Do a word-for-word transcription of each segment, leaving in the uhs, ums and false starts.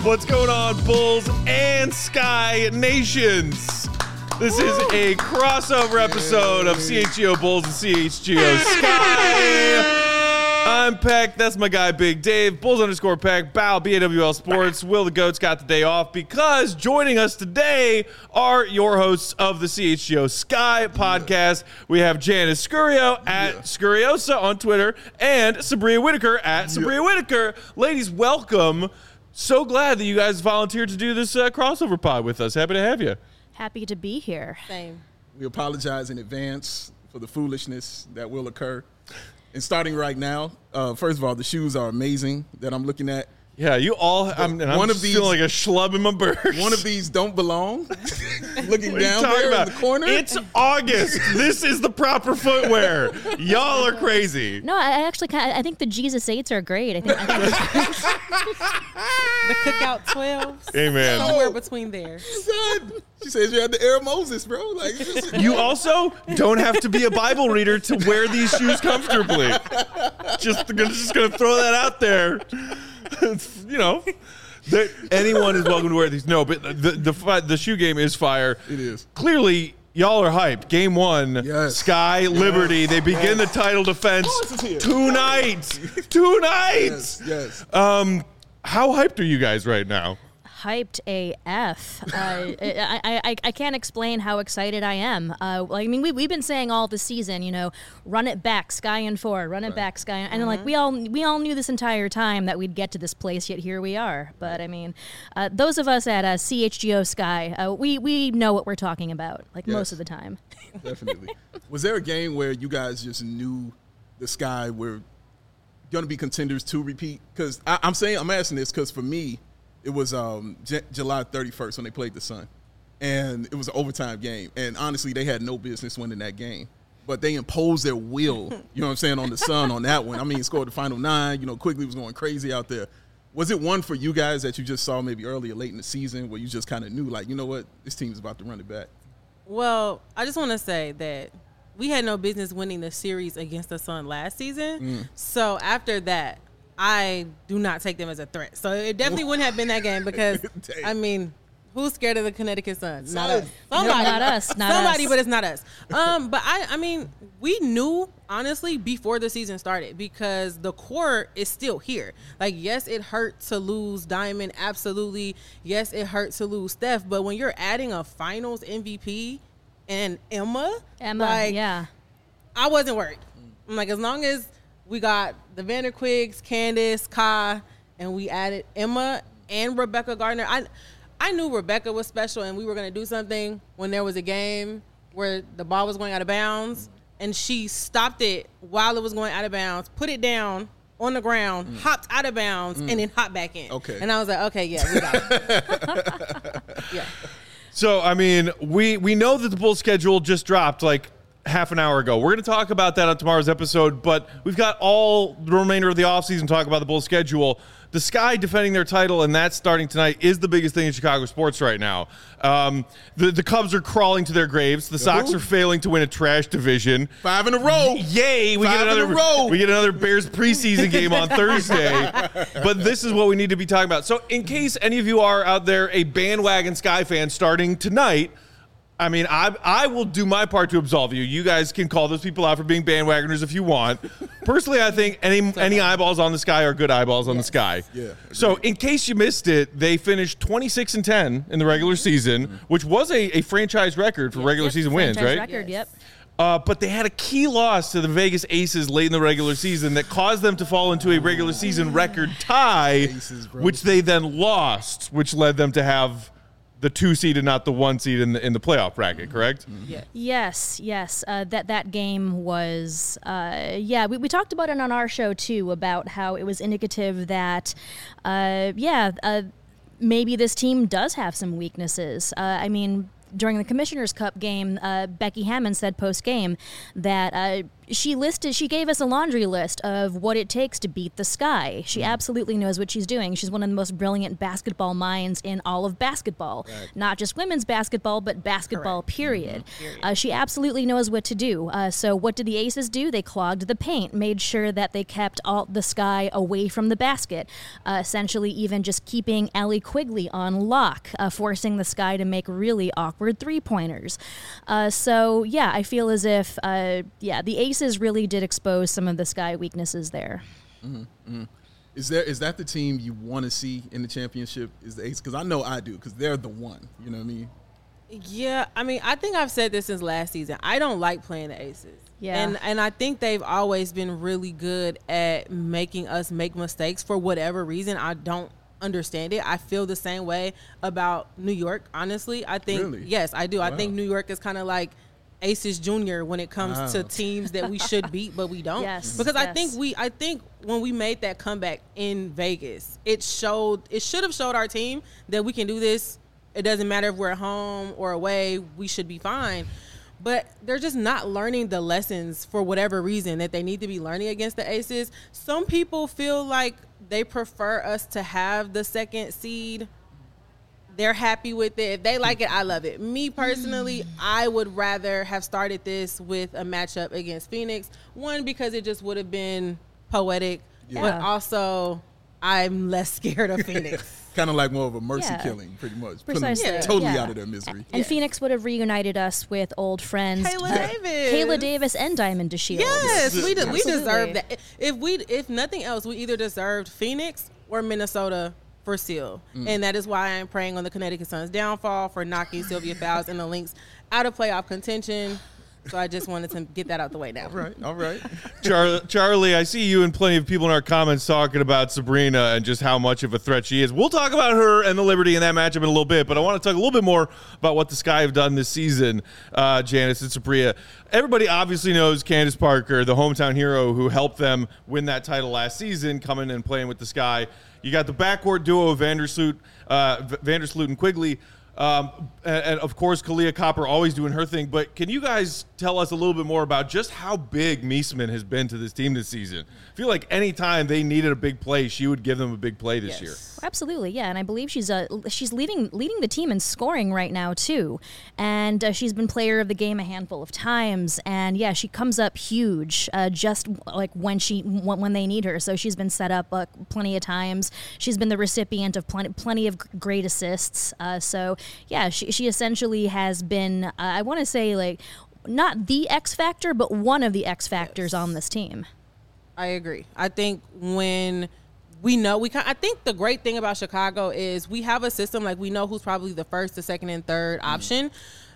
What's going on, Bulls and Sky Nations? This is a crossover episode of C H G O Bulls and C H G O Sky. I'm Peck. That's my guy, Big Dave. Bulls underscore Peck. Bow, B A W L Sports. Will the Goats got the day off because joining us today are your hosts of the C H G O Sky podcast. We have Janice Scurio at yeah. Scuriosa on Twitter and Sabria Whitaker at Sabria yeah. Whitaker. Ladies, welcome. So glad that you guys volunteered to do this uh, crossover pod with us. Happy to have you. Happy to be here. Same. We apologize in advance for the foolishness that will occur. And starting right now, uh, first of all, the shoes are amazing that I'm looking at. Yeah, you all. I'm, and I'm one just of these, feeling like a schlub in my burst. One of these don't belong. Looking down there about? in the corner. It's August. This is the proper footwear. Y'all are crazy. No, I actually kind of, I think the Jesus eights are great. I think, I think the Cookout twelves. Amen. Somewhere between there. She says you had the Air Moses, bro. Like just, you also don't have to be a Bible reader to wear these shoes comfortably. Just, just gonna throw that out there. You know, that anyone is welcome to wear these. No, but the, the the the shoe game is fire. It is. Clearly, y'all are hyped. Game one, yes. Sky Liberty. Yes. They begin yes. the title defense tonight. Tonight. Yes. Yes. Um, how hyped are you guys right now? Hyped A F. Uh, I, I, I can't explain how excited I am. Uh, I mean, we, we've been saying all the season, you know, run it back, Sky and four, run it right. back, Sky. And mm-hmm. like we all we all knew this entire time that we'd get to this place, yet here we are. But I mean, uh, those of us at uh, C H G O Sky, uh, we, we know what we're talking about, like yes. most of the time. Definitely. Was there a game where you guys just knew the Sky were going to be contenders to repeat? Because I'm saying, I'm asking this because for me, it was um, J- July thirty-first when they played the Sun, and it was an overtime game. And honestly, they had no business winning that game, but they imposed their will. You know what I'm saying on the Sun on that one. I mean, scored the final nine. You know, Quigley was going crazy out there. Was it one for you guys that you just saw maybe earlier, late in the season, where you just kind of knew, like, you know what, this team's about to run it back? Well, I just want to say that we had no business winning the series against the Sun last season. Mm. So after that, I do not take them as a threat. So it definitely wouldn't have been that game because, I mean, who's scared of the Connecticut Sun? Not us. Somebody. Not us. Not Somebody, us. but it's not us. Um, but, I, I mean, we knew, honestly, before the season started because the core is still here. Like, yes, it hurt to lose Diamond, absolutely. Yes, it hurt to lose Steph. But when you're adding a finals M V P and Emma, Emma, like, yeah. I wasn't worried. I'm like, as long as we got the Vanderquigs, Candace, Kai, and we added Emma and Rebecca Gardner. I I knew Rebecca was special and we were going to do something when there was a game where the ball was going out of bounds, and she stopped it while it was going out of bounds, put it down on the ground, mm. hopped out of bounds, mm. and then hopped back in. Okay. And I was like, okay, yeah, we got it. yeah. So, I mean, we, we know that the Bulls schedule just dropped, like, half an hour ago. We're going to talk about that on tomorrow's episode, but we've got all the remainder of the offseason to talk about the Bulls schedule. The Sky defending their title, and that's starting tonight, is the biggest thing in Chicago sports right now. Um, the, the Cubs are crawling to their graves. The Sox Who? are failing to win a trash division. Five in a row. Yay! We Five get another in a row. We get another Bears preseason game on Thursday. But this is what we need to be talking about. So in case any of you are out there a bandwagon Sky fan starting tonight, I mean, I I will do my part to absolve you. You guys can call those people out for being bandwagoners if you want. Personally, I think any any eyeballs on the Sky are good eyeballs on yes. the Sky. Yeah. So, in case you missed it, they finished twenty-six and ten in the regular season, mm-hmm. which was a, a franchise record for yep. regular yep. season franchise wins, right? Record, yes. Yep. Uh, but they had a key loss to the Vegas Aces late in the regular season that caused them to fall into a regular season record tie, Aces, which they then lost, which led them to have the two seed and not the one seed in the in the playoff bracket, correct? Yeah. Yes, yes. Uh, that that game was, uh, yeah. We, we talked about it on our show too about how it was indicative that, uh, yeah, uh, maybe this team does have some weaknesses. Uh, I mean, during the Commissioner's Cup game, uh, Becky Hammond said post-game that uh, she listed, she gave us a laundry list of what it takes to beat the Sky. She mm. absolutely knows what she's doing. She's one of the most brilliant basketball minds in all of basketball. Right. Not just women's basketball, but basketball, Correct. period. Mm-hmm. period. Uh, she absolutely knows what to do. Uh, so what did the Aces do? They clogged the paint, made sure that they kept all the Sky away from the basket, uh, essentially even just keeping Allie Quigley on lock, uh, forcing the Sky to make really awkward three-pointers. Uh, so, yeah, I feel as if, uh, yeah, the Aces really did expose some of the Sky weaknesses there. Mm-hmm, mm-hmm. Is there is that the team you want to see in the championship? Is the Aces? Because I know I do. Because they're the one. You know what I mean? Yeah, I mean, I think I've said this since last season. I don't like playing the Aces. Yeah, and and I think they've always been really good at making us make mistakes for whatever reason. I don't understand it. I feel the same way about New York. Honestly, I think really? yes, I do. Wow. I think New York is kind of like Aces Junior when it comes wow. to teams that we should beat but we don't. Yes, because yes. I think we I think when we made that comeback in Vegas, it showed it should have showed our team that we can do this. It doesn't matter if we're at home or away, we should be fine. But they're just not learning the lessons for whatever reason that they need to be learning against the Aces. Some people feel like they prefer us to have the second seed. They're happy with it. If they like it, I love it. Me personally, I would rather have started this with a matchup against Phoenix. One, because it just would have been poetic, yeah. but also I'm less scared of Phoenix. Kind of like more of a mercy yeah. killing, pretty much. Precisely. Putting them totally yeah. out of their misery. And yes. Phoenix would have reunited us with old friends. Kayla uh, Davis. Kayla Davis and Diamond DeShields. Yes, we, de- we Absolutely. deserve that. If we, if nothing else, we either deserved Phoenix or Minnesota for Seal. Mm. And that is why I'm praying on the Connecticut Sun's downfall for knocking Sylvia Fowles and the Lynx out of playoff contention. So I just wanted to get that out the way now. All right, all right. Char- Charlie, I see you and plenty of people in our comments talking about Sabrina and just how much of a threat she is. We'll talk about her and the Liberty in that matchup in a little bit, but I want to talk a little bit more about what the Sky have done this season, uh, Janice and Sabria. Everybody obviously knows Candace Parker, the hometown hero who helped them win that title last season, coming and playing with the Sky. You got the backcourt duo of Vandersloot, uh, Vandersloot and Quigley. Um, and, and, of course, Kalia Copper always doing her thing. But can you guys tell us a little bit more about just how big Meesman has been to this team this season? I feel like any time they needed a big play, she would give them a big play this yes. year. Absolutely, yeah, and I believe she's uh, she's leading leading the team in scoring right now too, and uh, she's been player of the game a handful of times, and yeah, she comes up huge uh, just like when she when they need her. So she's been set up uh, plenty of times. She's been the recipient of plenty plenty of great assists. Uh, so yeah, she she essentially has been uh, I want to say like not the X factor, but one of the X factors yes. on this team. I agree. I think when we know we can, I think the great thing about Chicago is we have a system like we know who's probably the first, the second, and third mm-hmm. option.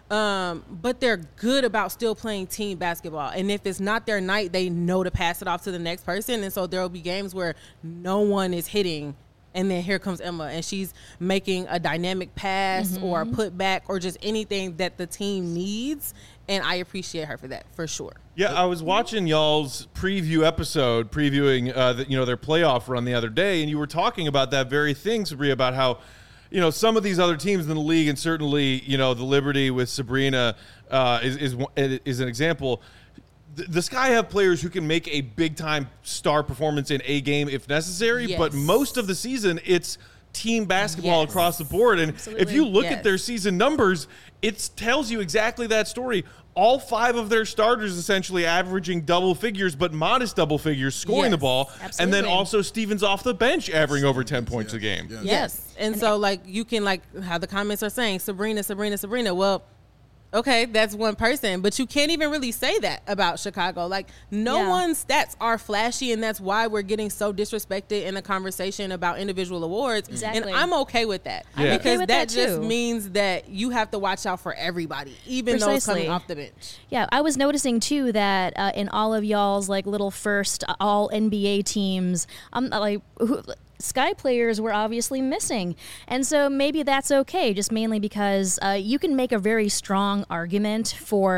Um, but they're good about still playing team basketball. And if it's not their night, they know to pass it off to the next person. And so there will be games where no one is hitting. And then here comes Emma, and she's making a dynamic pass mm-hmm. or a put back or just anything that the team needs. And I appreciate her for that, for sure. Yeah, I was watching y'all's preview episode, previewing uh, the, you know, their playoff run the other day, and you were talking about that very thing, Sabria, about how, you know, some of these other teams in the league, and certainly, you know, the Liberty with Sabrina uh, is, is is an example. The, the Sky have players who can make a big-time star performance in a game if necessary, yes. but most of the season, it's team basketball yes. across the board. And Absolutely. if you look yes. at their season numbers, it tells you exactly that story. All five of their starters essentially averaging double figures, but modest double figures, scoring yes. the ball. Absolutely. And then also Stevens off the bench averaging over ten points yes. a game. Yes. Yes. And, and so, like, you can, like, how the comments are saying, Sabrina, Sabrina, Sabrina. Well, okay, that's one person, but you can't even really say that about Chicago. Like, no Yeah. one's stats are flashy, and that's why we're getting so disrespected in a conversation about individual awards. Exactly. And I'm okay with that. I'm okay Because with that, that, just too. means that you have to watch out for everybody, even those Precisely. coming off the bench. Yeah, I was noticing too that uh, in all of y'all's like little first uh, all N B A teams, um, like who, Sky players were obviously missing, and so maybe that's okay. Just mainly because uh, you can make a very strong argument for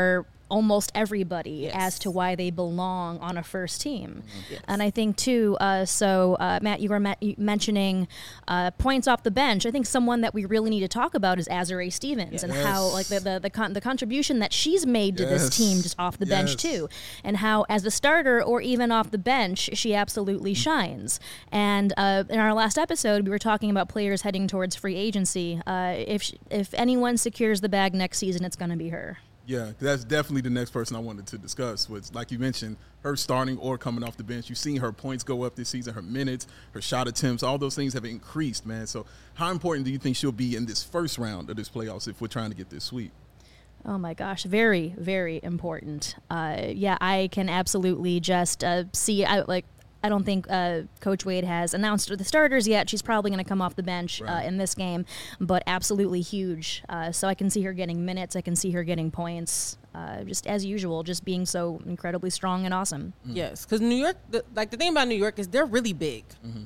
almost everybody Yes. as to why they belong on a first team. Yes. And I think, too, uh, so, uh, Matt, you were ma- mentioning uh, points off the bench. I think someone that we really need to talk about is Azurá Stevens and how, Yes. like, the the, the, con- the contribution that she's made to this Yes. team just off the bench, Yes. too. And how, as a starter or even off the bench, she absolutely shines. And uh, in our last episode, we were talking about players heading towards free agency. Uh, if sh- if anyone secures the bag next season, it's going to be her. Yeah, that's definitely the next person I wanted to discuss. Was like you mentioned, her starting or coming off the bench. You've seen her points go up this season, her minutes, her shot attempts, all those things have increased, man. So how important do you think she'll be in this first round of this playoffs if we're trying to get this sweep? Oh my gosh, very, very important. Uh, yeah, I can absolutely just uh, see, I, like, I don't think uh, Coach Wade has announced the starters yet. She's probably going to come off the bench Right. uh, in this game, but absolutely huge. Uh, so I can see her getting minutes. I can see her getting points. Uh, just as usual, just being so incredibly strong and awesome. Yes, because New York, the, like the thing about New York is they're really big,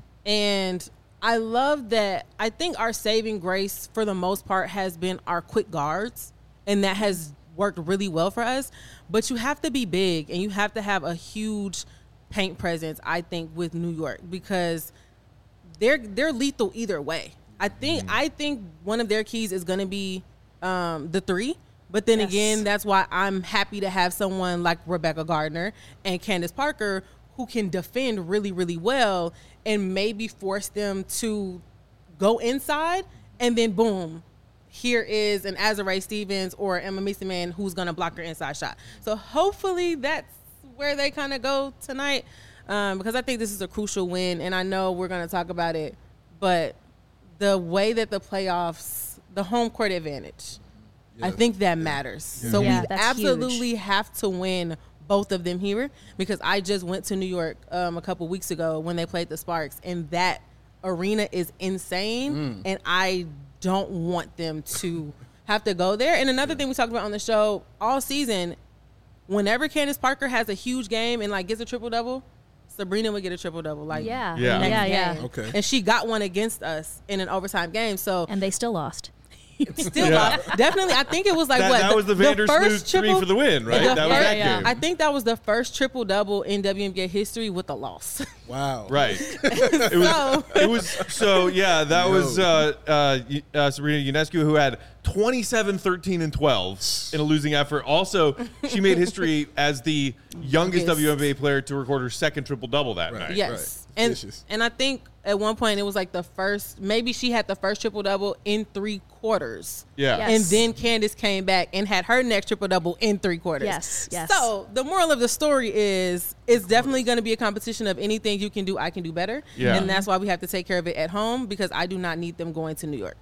and I love that. I think our saving grace for the most part has been our quick guards, and that has worked really well for us. But you have to be big, and you have to have a huge paint presence, I think, with New York, because they're they're lethal either way. I think I think one of their keys is going to be um, the three. But then Yes. again, that's why I'm happy to have someone like Rebecca Gardner and Candace Parker who can defend really, really well and maybe force them to go inside, and then boom, here is an Azurá Stevens or Emma Mason who's going to block her inside shot. So hopefully that's where they kind of go tonight, um, because I think this is a crucial win, and I know we're going to talk about it, but the way that the playoffs, the home court advantage, I Yes. think that matters. So Yeah, we that's absolutely huge. have to win both of them here, because I just went to New York um, a couple weeks ago when they played the Sparks, and that arena is insane, and I don't want them to have to go there. And another thing we talked about on the show all season, whenever Candace Parker has a huge game and like gets a triple double, Sabrina would get a triple double. Like Yeah, the Yeah. next yeah, yeah. game. Okay. And she got one against us in an overtime game. So And they still lost. still, Yeah. lost. Definitely, I think it was like That, what that was the Vandersloot first three triple- for the win, right? the That was first- that yeah. game. I think that was the first triple double in W N B A history with a loss. Wow. Right. It was, So- it was so yeah, that Yo. was uh, uh, Y- uh, Sabrina Ionescu, who had twenty-seven, thirteen, and twelve in a losing effort. Also, she made history as the youngest Youngest. W N B A player to record her second triple double that Right. night. Yes. Right. And Vicious. and I think at one point it was like the first, maybe she had the first triple double in three quarters. Yeah. Yes. And then Candace came back and had her next triple double in three quarters. Yes, yes. So the moral of the story is it's definitely going to be a competition of anything you can do, I can do better. Yeah. And that's why we have to take care of it at home, because I do not need them going to New York.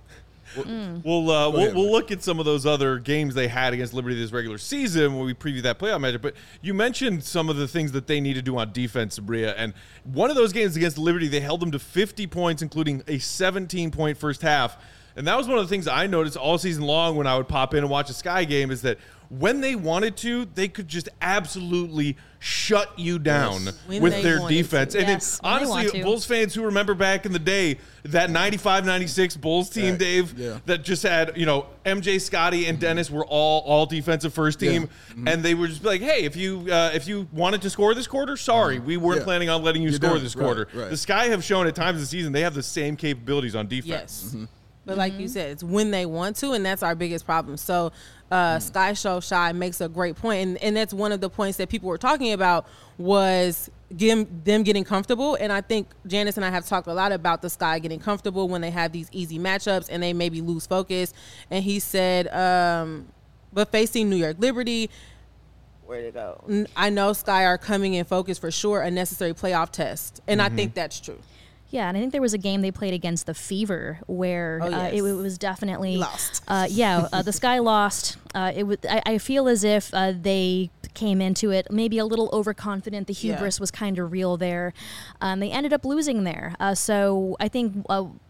We'll uh, we'll, ahead, we'll Mike. look at some of those other games they had against Liberty this regular season when we preview that playoff matchup. But you mentioned some of the things that they need to do on defense, Sabria. And one of those games against Liberty, they held them to fifty points, including a seventeen-point first half. And that was one of the things I noticed all season long when I would pop in and watch a Sky game, is that when they wanted to, they could just absolutely shut you down When with they their wanted defense. to. And Yes, then, when they want honestly, to. Bulls fans who remember back in the day, that ninety-five ninety-six Bulls team, Right. Dave, Yeah. that just had, you know, M J, Scotty, and Dennis were all all defensive first team, Yeah. and they would just be like, "Hey, if you uh, if you wanted to score this quarter, sorry, we weren't Yeah. planning on letting you You're score done. this Right, quarter." right. The Sky have shown at times this season they have the same capabilities on defense. Yes. But like you said, it's when they want to, and that's our biggest problem. So uh, Sky Show Shy makes a great point, and, and that's one of the points that people were talking about was them, them getting comfortable. And I think Janice and I have talked a lot about the Sky getting comfortable when they have these easy matchups and they maybe lose focus. And he said, um, but facing New York Liberty, where'd it go? N- I know Sky are coming in focus for sure, a necessary playoff test. And I think that's true. Yeah, and I think there was a game they played against the Fever where Oh, uh, yes. it, it was definitely Lost. Uh, yeah, uh, the Sky lost. Uh, it was. I, I feel as if uh, they came into it maybe a little overconfident. The Yeah. hubris was kind of real there. Um, they ended up losing there. Uh, so I think. Uh,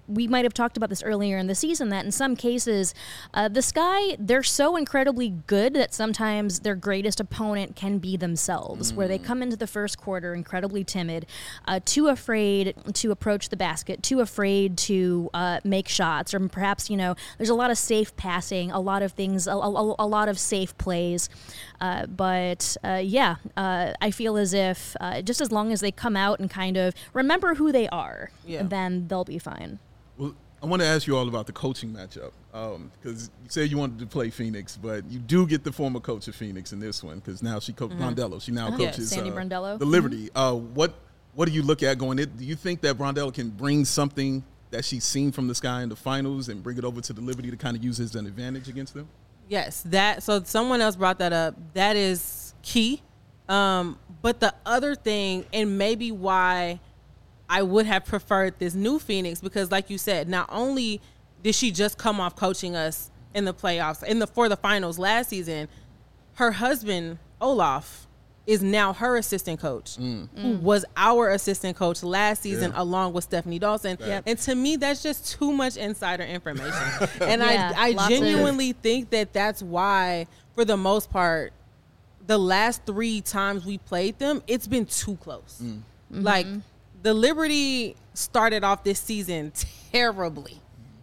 we might have talked about this earlier in the season, that in some cases, uh, the Sky, they're so incredibly good that sometimes their greatest opponent can be themselves, mm. where they come into the first quarter incredibly timid, uh, too afraid to approach the basket, too afraid to uh, make shots, or perhaps, you know, there's a lot of safe passing, a lot of things, a, a, a lot of safe plays. Uh, but, uh, yeah, uh, I feel as if uh, just as long as they come out and kind of remember who they are, yeah. then they'll be fine. Well, I want to ask you all about the coaching matchup because um, you said you wanted to play Phoenix, but you do get the former coach of Phoenix in this one because now she coaches mm-hmm. Brondello. She now uh-huh. coaches yeah, Sandy uh, Brondello. the Liberty. Mm-hmm. Uh, what what do you look at going in? Do you think that Brondello can bring something that she's seen from the Sky in the finals and bring it over to the Liberty to kind of use as an advantage against them? Yes, that. So someone else brought that up. That is key. Um, but the other thing, and maybe why I would have preferred this new Phoenix, because like you said, not only did she just come off coaching us in the playoffs, in the for the finals last season, her husband, Olaf, is now her assistant coach, mm. who mm. was our assistant coach last season yeah. along with Stephanie Dawson. Yep. And to me, that's just too much insider information. And yeah, I, I genuinely of- think that that's why, for the most part, the last three times we played them, it's been too close. Mm. Mm-hmm. Like, the Liberty started off this season terribly.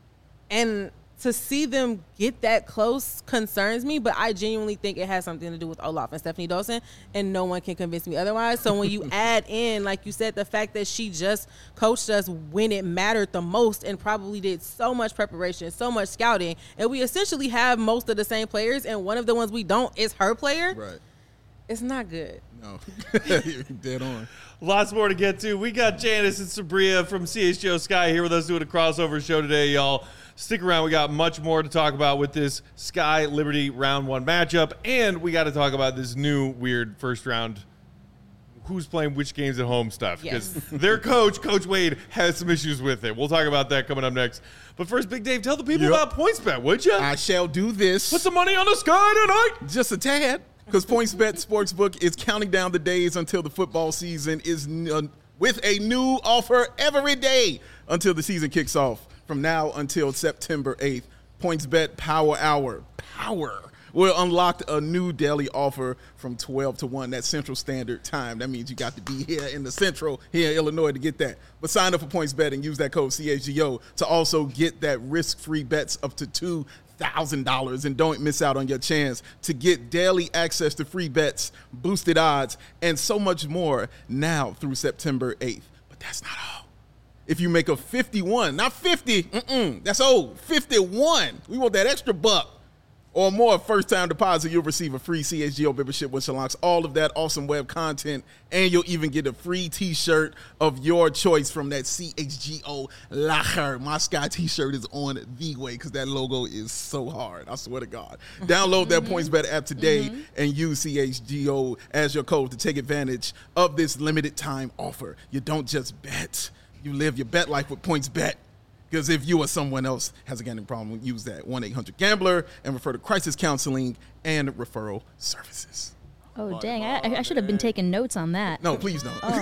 And to see them get that close concerns me, but I genuinely think it has something to do with Olaf and Stephanie Dawson, and no one can convince me otherwise. So when you add in, like you said, the fact that she just coached us when it mattered the most and probably did so much preparation, so much scouting, and we essentially have most of the same players, and one of the ones we don't is her player, right? It's not good. No. You're dead on. Lots more to get to. We got Janice and Sabria from C H G O Sky here with us doing a crossover show today, y'all. Stick around. We got much more to talk about with this Sky Liberty round one matchup. And we got to talk about this new weird first round who's playing which games at home stuff. Because yes. their coach, Coach Wade, has some issues with it. We'll talk about that coming up next. But first, Big Dave, tell the people yep. about PointsBet, would you? I shall do this. Put some money on the Sky tonight. Just a tad. Because PointsBet Sportsbook is counting down the days until the football season is uh, with a new offer every day until the season kicks off. From now until September eighth, PointsBet Power Hour, Power, will unlock a new daily offer from twelve to one. That's Central Standard Time. That means you got to be here in the Central, here in Illinois, to get that. But sign up for PointsBet and use that code C H G O to also get that risk-free bets up to two thousand dollars. And don't miss out on your chance to get daily access to free bets, boosted odds, and so much more now through September eighth. But that's not all. If you make a fifty-one, not fifty, mm-mm, that's old, fifty-one, we want that extra buck or more first-time deposit, you'll receive a free C H G O membership, which unlocks all of that awesome web content, and you'll even get a free T-shirt of your choice from that C H G O Lacher. My Sky T-shirt is on the way because that logo is so hard. I swear to God. Download that mm-hmm. PointsBet app today mm-hmm. and use C H G O as your code to take advantage of this limited-time offer. You don't just bet. You live your bet life with PointsBet. Because if you or someone else has a gambling problem, use that one eight hundred gambler and refer to crisis counseling and referral services. Oh, oh dang. I, I should have been taking notes on that. No, please don't. Oh,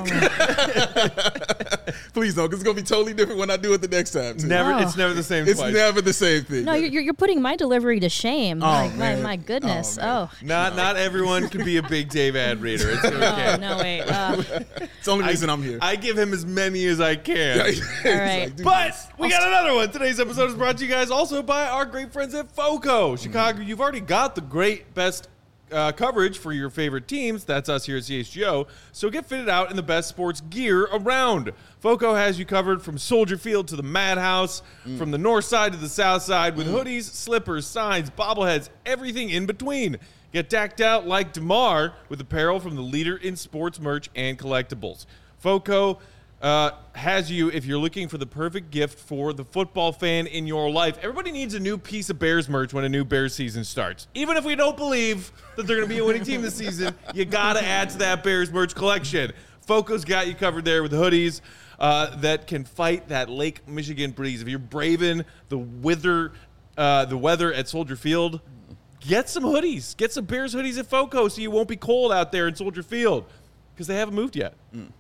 please don't, because it's going to be totally different when I do it the next time. Too. Never, oh. It's never the same It's twice. never the same thing. No, you're, you're putting my delivery to shame. Oh, my, man. my, my goodness. Oh. oh. Not no. not everyone can be a Big Dave ad reader. It's okay. Oh, no, wait. Uh, it's the only reason I, I'm here. I give him as many as I can. All right. Like, But this. we got another one. Today's episode is brought to you guys also by our great friends at FOCO. Chicago, you've already got the great best uh, coverage for your favorite teams. That's us here at C H G O. So get fitted out in the best sports gear around. FOCO has you covered from Soldier Field to the Madhouse, mm. from the north side to the south side, with mm. hoodies, slippers, signs, bobbleheads, everything in between. Get decked out like DeMar with apparel from the leader in sports merch and collectibles. FOCO uh, has you if you're looking for the perfect gift for the football fan in your life. Everybody needs a new piece of Bears merch when a new Bears season starts. Even if we don't believe that they're going to be a winning team this season, you got to add to that Bears merch collection. FOCO's got you covered there with hoodies uh, that can fight that Lake Michigan breeze. If you're braving the weather, uh, the weather at Soldier Field, get some hoodies. Get some Bears hoodies at FOCO so you won't be cold out there in Soldier Field because they haven't moved yet. Mm.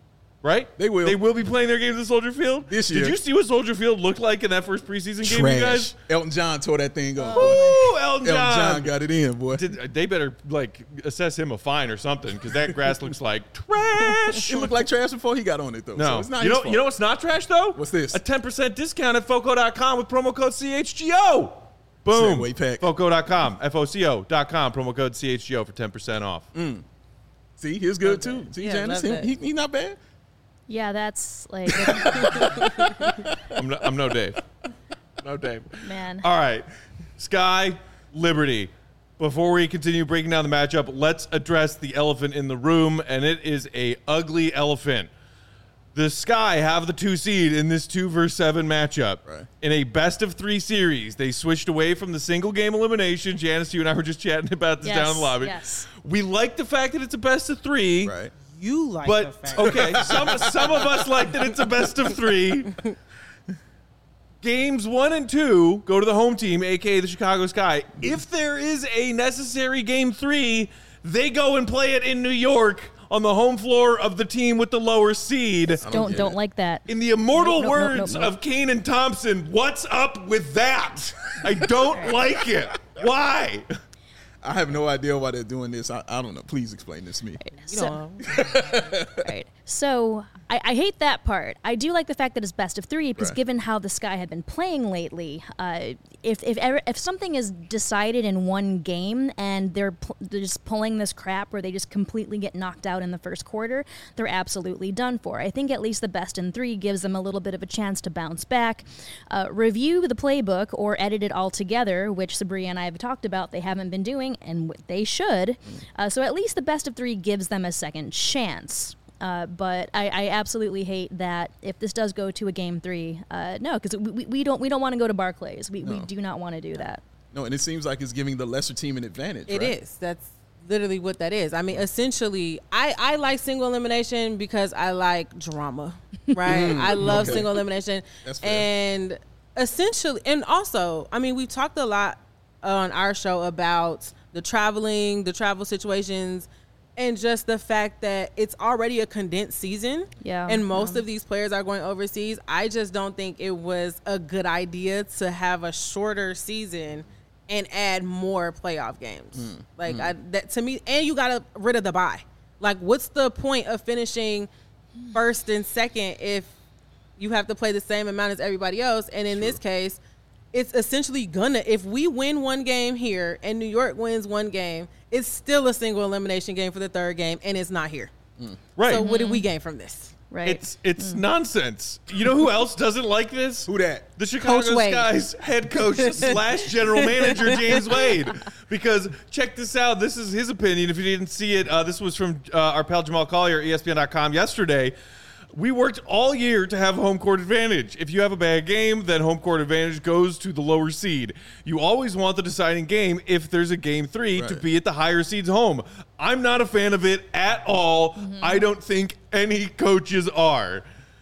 right? They will. They will be playing their games at Soldier Field This year. Did you see what Soldier Field looked like in that first preseason game, you guys? Trash. Elton John tore that thing up. Woo, Elton John. Elton John got it in, boy. Did, they better like assess him a fine or something because that grass looks like trash. It looked like trash before he got on it, though. No, So it's not you his know, fault. you know what's not trash though? What's this? A ten percent discount at Foco dot com with promo code C H G O. Boom. Segway pack. Foco dot com, F O C O dot com, promo code C H G O for ten percent off. Mm. See, he's good too. that. See, Yeah, Janice, love he, that. he, he not bad. Yeah, that's like, I'm no, I'm no Dave. No Dave. man. All right. Sky, Liberty. Before we continue breaking down the matchup, let's address the elephant in the room, and it is a ugly elephant. The Sky have the two seed in this two versus seven matchup. Right. In a best of three series, they switched away from the single game elimination. Janice, you and I were just chatting about this Yes, down in the lobby. yes. We like the fact that it's a best of three. Right. You like the But fact. okay, some some of us like that it's a best of three. Games one and two go to the home team, aka the Chicago Sky. If there is a necessary game three, they go and play it in New York on the home floor of the team with the lower seed. Don't get don't it. like that. In the immortal Nope, nope, nope, words nope, nope. of Kane and Thompson, what's up with that? I don't like it. Why? I have no idea why they're doing this. I, I don't know. Please explain this to me. You So- know, Right. So I, I hate that part. I do like the fact that it's best of three because Right. given how the Sky have been playing lately, uh, if if ever, if something is decided in one game and they're, pl- they're just pulling this crap where they just completely get knocked out in the first quarter, they're absolutely done for. I think at least the best in three gives them a little bit of a chance to bounce back, uh, review the playbook or edit it all together, which Sabria and I have talked about they haven't been doing, and w- they should. Uh, so at least the best of three gives them a second chance. Uh, but I, I absolutely hate that if this does go to a game three, uh, no, because we, we, we don't we don't want to go to Barclays. We, we No. do not want to do that. No, and it seems like it's giving the lesser team an advantage. it right? is. That's literally what that is. I mean, essentially, I, I like single elimination because I like drama, right? I love okay. single elimination. That's fair. And essentially, and also, I mean, we talked a lot on our show about the traveling, the travel situations, and just the fact that it's already a condensed season. Yeah. And most Yeah. of these players are going overseas. I just don't think it was a good idea to have a shorter season and add more playoff games. Like I, that to me, and you got rid of the bye. Like, what's the point of finishing first and second if you have to play the same amount as everybody else? And in this case, it's essentially gonna, if we win one game here and New York wins one game, it's still a single elimination game for the third game, and it's not here. Right. So what did we gain from this? Right. It's it's nonsense. You know who else doesn't like this? Who that? The Chicago Coach Wade. Sky's head coach slash general manager, James Wade. Because check this out. This is his opinion. If you didn't see it, uh, this was from uh, our pal Jamal Collier, E S P N dot com yesterday. We worked all year to have home court advantage. If you have a bad game, then home court advantage goes to the lower seed. You always want the deciding game if there's a game three to Right. be at the higher seed's home. I'm not a fan of it at all. I don't think any coaches are.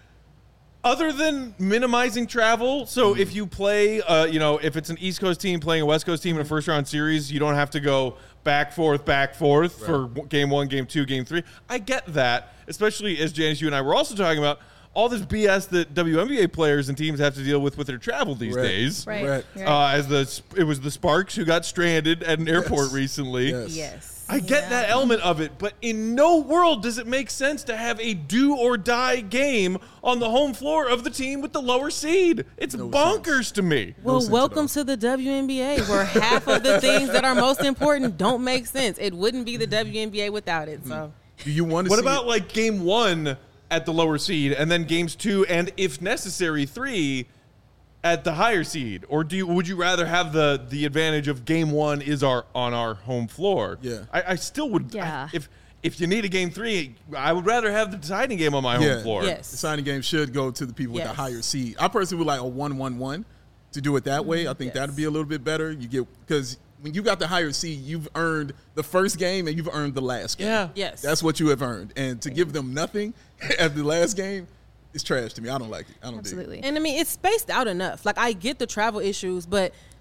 Other than minimizing travel, so if you play, uh, you know, if it's an East Coast team playing a West Coast team in a first round series, you don't have to go back, forth, back, forth for w- game one, game two, game three. I get that, especially as Janice, you and I were also talking about all this B S that W N B A players and teams have to deal with with their travel these Right. days. right. Right. Right. Uh, as the it was the Sparks who got stranded at an airport Yes. recently. Yes. Yes. I get that element of it, but in no world does it make sense to have a do or die game on the home floor of the team with the lower seed. It's No bonkers to me. Well, sense at welcome all. to the W N B A, where half of the things that are most important don't make sense. It wouldn't be the W N B A without it. So, Do you want to What see about it? like game one at the lower seed and then games two and if necessary three at the higher seed? Or do you, would you rather have the the advantage of game one is our on our home floor? Yeah. I, I still would. Yeah. I, if if you need a game three, I would rather have the deciding game on my Yeah. home floor. Yes. The signing game should go to the people with Yes. the higher seed. I personally would like a one one one to do it that way. I think Yes. that'd be a little bit better. You get because when you got the higher seed, you've earned the first game and you've earned the last game. Yeah. yes. That's what you have earned. And to give them nothing at the last game is trash to me. I don't like it. I don't dig it. Absolutely. And I mean, it's spaced out enough. Like, I get the travel issues, but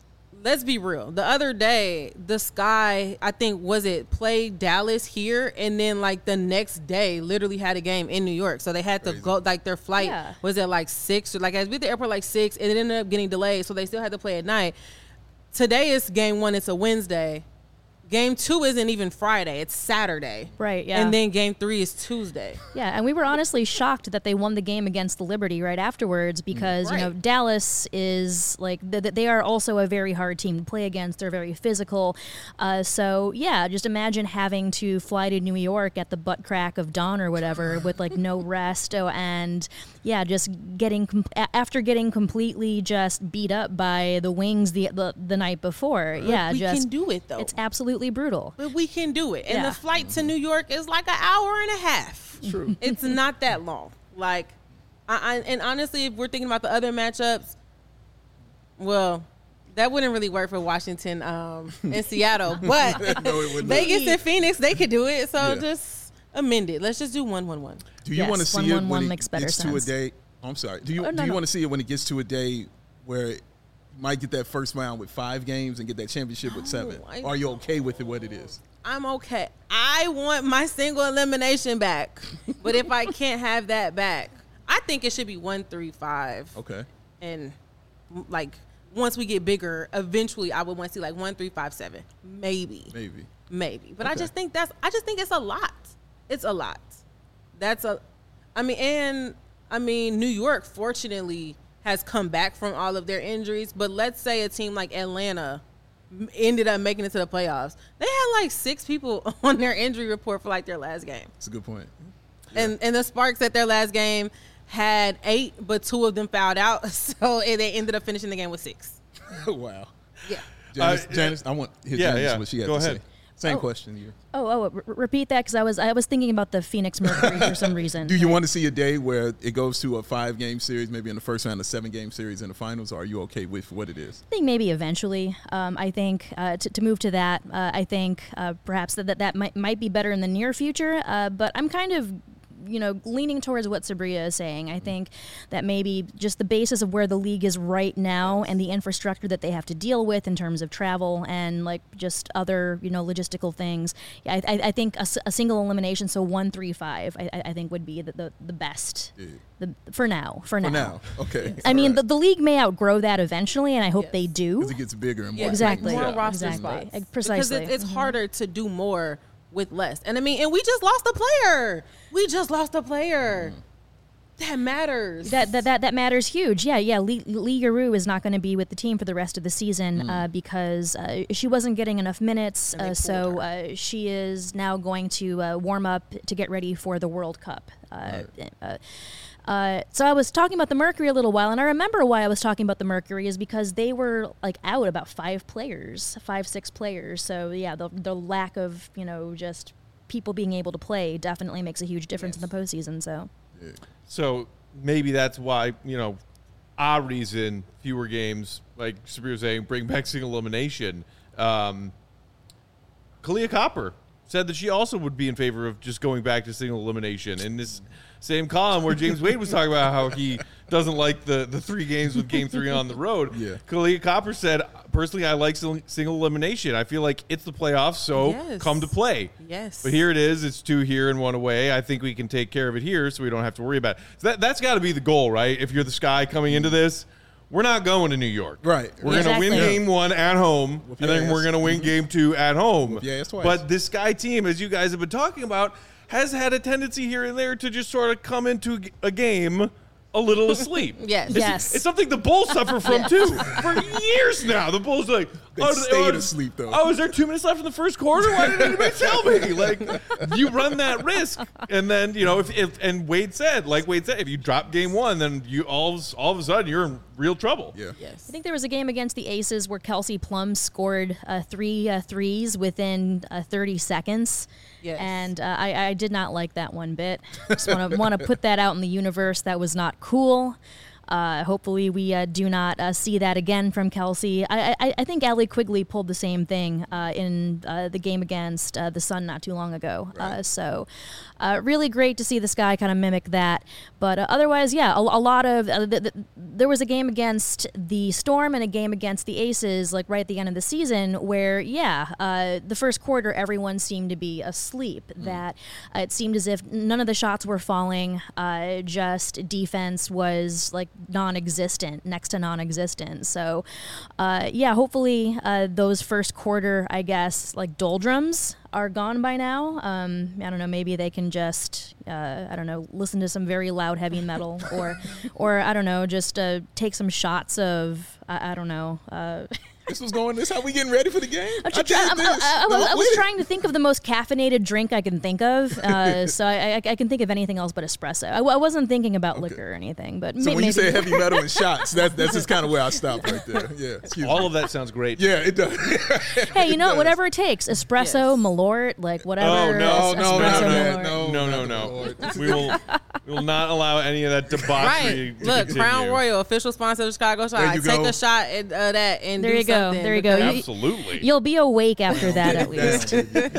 let's be real. The other day, the Sky, I think, was it played Dallas here, and then like the next day, literally had a game in New York. So they had to Crazy. go, like their flight Yeah. was at like six, or like I was at the airport like six, and it ended up getting delayed. So they still had to play at night. Today is game one. It's a Wednesday. Game two isn't even Friday. It's Saturday. Right, yeah. And then game three is Tuesday. Yeah, and we were honestly shocked that they won the game against the Liberty right afterwards because, you know, Right. Dallas is like, th- th- they are also a very hard team to play against. They're very physical. Uh, so, yeah, just imagine having to fly to New York at the butt crack of dawn or whatever with like no rest. Oh, and, yeah, just getting, com- a- after getting completely just beat up by the Wings the, the, the night before. Yeah, we just. can do it, though. It's absolutely brutal. But we can do it. And Yeah. the flight to New York is like an hour and a half. True. It's not that long. Like, I, I, and honestly, if we're thinking about the other matchups, well, that wouldn't really work for Washington um, and Seattle. But No, it would not. Vegas and Phoenix, they could do it. So Yeah. just amend it. Let's just do one, one, one. Do you Yes, want to see one, it one, when one it makes better gets sense. to a day? Oh, I'm sorry. Do you Oh, no, do you no. want to see it when it gets to a day where it might get that first round with five games and get that championship with seven? I- Or are you okay with it what it is? I'm okay. I want my single elimination back. But if I can't have that back, I think it should be one, three, five. Okay. And m- like once we get bigger, eventually I would want to see like one, three, five, seven, maybe, Maybe. maybe. But I Okay. just think that's I just think it's a lot. It's a lot. That's a, I mean, and I mean New York fortunately has come back from all of their injuries. But let's say a team like Atlanta m- ended up making it to the playoffs. They had like six people on their injury report for like their last game. That's a good point. And and the Sparks at their last game had eight, but two of them fouled out, so and they ended up finishing the game with six. Wow. Yeah. Janice, Uh, Janice, I want his yeah, Janice yeah. what she had Go to ahead. say. Same Oh. question here. Oh, oh, r- repeat that because I was I was thinking about the Phoenix Mercury for some reason. Do you want to see a day where it goes to a five game series, maybe in the first round, a seven game series in the finals, or are you okay with what it is? I think maybe eventually. Um, I think uh, to, to move to that, uh, I think uh, perhaps that that, that might, might be better in the near future. Uh, but I'm kind of, you know, leaning towards what Sabria is saying. I think that maybe just the basis of where the league is right now and the infrastructure that they have to deal with in terms of travel and like just other, you know, logistical things. Yeah, I, I, I think a, s- a single elimination, so one, three, five, I, I I think would be the, the, the best. Yeah. The, for now. For, For now. now. Okay. I mean, the, the league may outgrow that eventually, and I hope Yes. they do. Because it gets bigger and more. Yeah, Exactly. more Yeah. roster Exactly. spots. Uh, precisely. Because it's, it's Mhm. harder to do more with less. And I mean, and we just lost a player. We just lost a player. That matters. That, that that that matters huge. Yeah, yeah. Lee, Lee Giroux is not going to be with the team for the rest of the season uh, because uh, she wasn't getting enough minutes. And they Uh, pulled so her. uh, she is now going to uh, warm up to get ready for the World Cup. Uh, uh, uh, so I was talking about the Mercury a little while, and I remember why I was talking about the Mercury is because they were like out about five players, five six players. So yeah, the the lack of you know just people being able to play definitely makes a huge difference in the postseason. So. So maybe that's why, you know, our reason, fewer games, like Sabir was saying, bring back single elimination. Um, Kalia Copper said that she also would be in favor of just going back to single elimination. In this same column where James Wade was talking about how he doesn't like the, the three games with game three on the road, Yeah. Kalia Copper said, personally, I like sil- single elimination. I feel like it's the playoffs, so Yes. come to play. Yes. But here it is. It's two here and one away. I think we can take care of it here, so we don't have to worry about it. So that, that's got to be the goal, right? If you're the Sky coming into this, we're not going to New York. Right. We're Exactly. going to win game one at home, Whoop and your then ass. we're going to win game two at home. Whoop your ass twice. But this Sky team, as you guys have been talking about, has had a tendency here and there to just sort of come into a game a little asleep. Yes. It's, Yes. it's something the Bulls suffer from, too. For years now, the Bulls are like, They oh, stayed oh, asleep, though. Oh, is there two minutes left in the first quarter? Why didn't anybody tell me? Like, you run that risk. And then, you know, if, if and Wade said, like Wade said, if you drop game one, then you all, of- all of a sudden you're in real trouble. Yeah. Yes. I think there was a game against the Aces where Kelsey Plum scored uh, three uh, threes within uh, thirty seconds. Yes. And uh, I, I did not like that one bit. Just want to want to put that out in the universe. That was not cool. Uh, hopefully, we uh, do not uh, see that again from Kelsey. I, I, I think Allie Quigley pulled the same thing uh, in uh, the game against uh, the Sun not too long ago. Right. Uh, so, uh, really great to see this guy kind of mimic that. But uh, otherwise, yeah, a, a lot of uh, th- th- there was a game against the Storm and a game against the Aces, like right at the end of the season, where yeah, uh, the first quarter everyone seemed to be asleep. Mm. That uh, it seemed as if none of the shots were falling. Uh, just defense was like non-existent, next to non-existent. So, uh, yeah, hopefully uh, those first quarter, I guess, like doldrums are gone by now. Um, I don't know. Maybe they can just, uh, I don't know, listen to some very loud heavy metal, or, or I don't know, just uh, take some shots of, I, I don't know. Uh, This was going. This how we getting ready for the game. I'm I tr- I'm- did this. I, I- No, I was wait. trying to think of the most caffeinated drink I can think of, uh, so I, I, I can think of anything else but espresso. I, I wasn't thinking about Okay. liquor or anything, but So may- when maybe. you say heavy metal and shots, that, that's just kind of where I stopped right there. Yeah, excuse All me. of that sounds great. Yeah, it does. Hey, you know It what? does. Whatever it takes. Espresso, Yes. Malort, like whatever. Oh, no, es- no, espresso, no, Malort. no, No, no, no, no. no. We will we will not allow any of that debauchery Right. to Look, continue. Crown Royal, official sponsor of Chicago There Shot. you Take go. a shot at uh, that and There do you go. something There you go. because- You- Absolutely. You'll be awake after that, at least.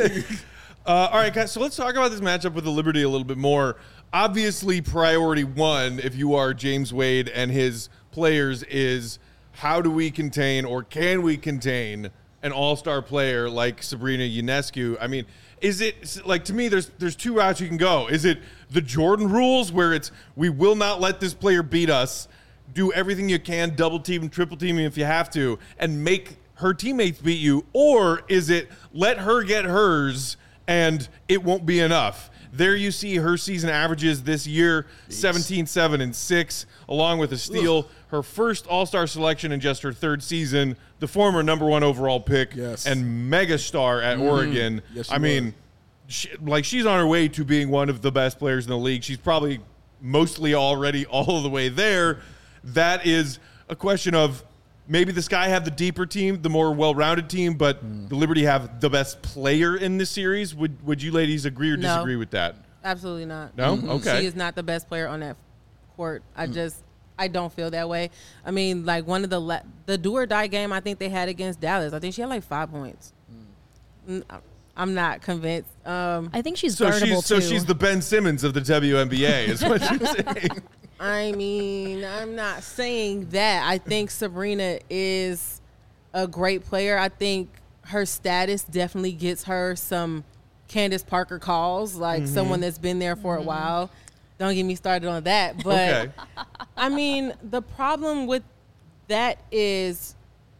Uh, all right, guys, so let's talk about this matchup with the Liberty a little bit more. Obviously, priority one, if you are James Wade and his players, is how do we contain or can we contain an all-star player like Sabrina Ionescu? I mean, is it, like, to me, there's there's two routes you can go. Is it the Jordan rules where it's we will not let this player beat us, do everything you can, double team and triple team if you have to, and make her teammates beat you? Or is it let her get hers and it won't be enough? There you see her season averages this year, seventeen, seven, and six, along with a steal. Her first All-Star selection in just her third season, the former number one overall pick Yes. and megastar at Oregon. Yes, she I mean, was. she, like she's on her way to being one of the best players in the league. She's probably mostly already all the way there. That is a question of maybe the Sky have the deeper team, the more well-rounded team, but Hmm. the Liberty have the best player in this series. Would would you ladies agree or No. disagree with that? Absolutely not. No? Mm-mm. Okay. She is not the best player on that court. I just, I don't feel that way. I mean, like one of the le- the do or die game I think they had against Dallas. I think she had like five points. Mm, I'm not convinced. Um, I think she's So guardable she's so too. she's the Ben Simmons of the W N B A, is what you're saying. I mean, I'm not saying that. I think Sabrina is a great player. I think her status definitely gets her some Candace Parker calls, like Mm-hmm. someone that's been there for a while. Don't get me started on that. But Okay. I mean, the problem with that is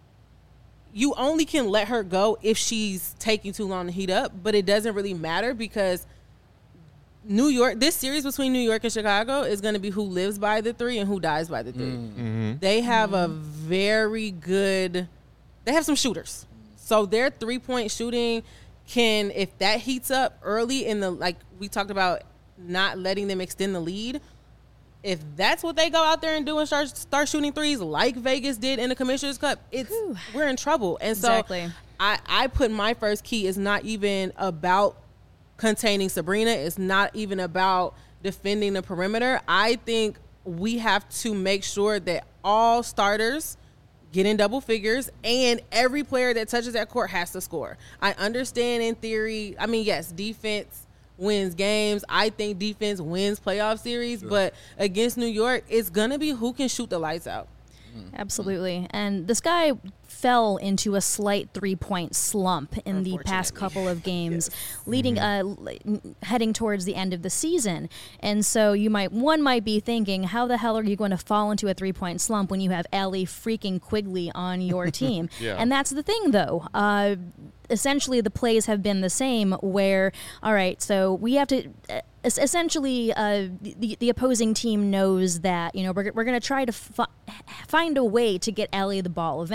you only can let her go if she's taking too long to heat up, but it doesn't really matter because New York, this series between New York and Chicago is going to be who lives by the three and who dies by the three. Mm-hmm. They have a very good, they have some shooters. So their three point shooting can, if that heats up early in the, like we talked about, not letting them extend the lead. If that's what they go out there and do and start, start shooting threes like Vegas did in the Commissioner's Cup, it's we're in trouble. And so Exactly. I, I put my first key is not even about containing Sabrina. It's not even about defending the perimeter. I think we have to make sure that all starters get in double figures and every player that touches that court has to score. I understand in theory, I mean, yes, defense wins games. I think defense wins playoff series, Sure. but against New York, it's going to be who can shoot the lights out. Absolutely. And the Sky fell into a slight three-point slump in the past Unfortunately. couple of games, leading uh, l- heading towards the end of the season. And so you might one might be thinking, how the hell are you going to fall into a three-point slump when you have Allie freaking Quigley on your team? Yeah. And that's the thing, though. Uh, essentially, the plays have been the same. Where, all right, so we have to. Uh, es- Essentially, uh, the the opposing team knows that you know we're, we're going to try to fi- find a way to get Allie the ball eventually,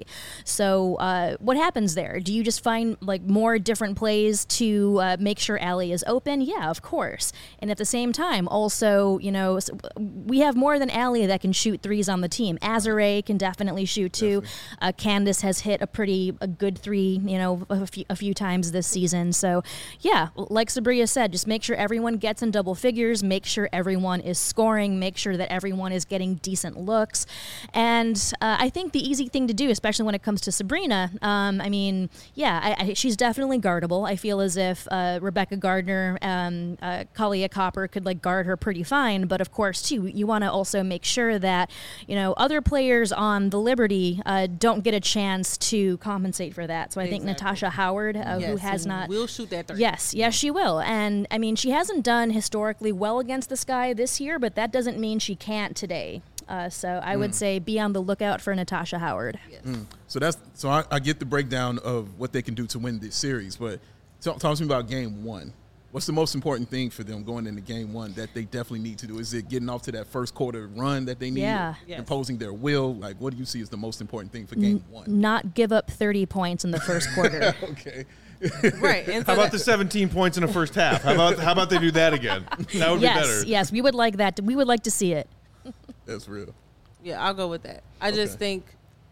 Allie. So uh, what happens there? Do you just find like more different plays to uh, make sure Allie is open? Yeah, of course. And at the same time, also, you know, we have more than Allie that can shoot threes on the team. Azare can definitely shoot too. Uh, Candace has hit a pretty a good three, you know, a few, a few times this season. So, yeah, like Sabria said, just make sure everyone gets in double figures, make sure everyone is scoring, make sure that everyone is getting decent looks. And uh, I think the easy thing to do, especially when it comes to Sabrina, um, I mean, yeah, I, I, she's definitely guardable. I feel as if uh, Rebecca Gardner, um, uh, Kalia Copper could like guard her pretty fine. But of course, too, you want to also make sure that, you know, other players on the Liberty uh, don't get a chance to compensate for that. So I think Exactly. Natasha Howard, uh, yes, who has not, will shoot that three. yes, yes, she will. And I mean, she hasn't done historically well against the Sky this year, but that doesn't mean she can't today. Uh, so I would say be on the lookout for Natasha Howard. Yes. Mm. So that's so I, I get the breakdown of what they can do to win this series, but talk, talk to me about game one. What's the most important thing for them going into game one that they definitely need to do? Is it getting off to that first quarter run that they need? Yeah. Yes. Imposing their will? Like, what do you see as the most important thing for game one? Not give up thirty points in the first quarter. Okay. Right. And so How about that- the seventeen points in the first half? How about how about they do that again? That would yes, be better. yes, we would like that. We would like to see it. That's real. Yeah, I'll go with that. I just Okay. think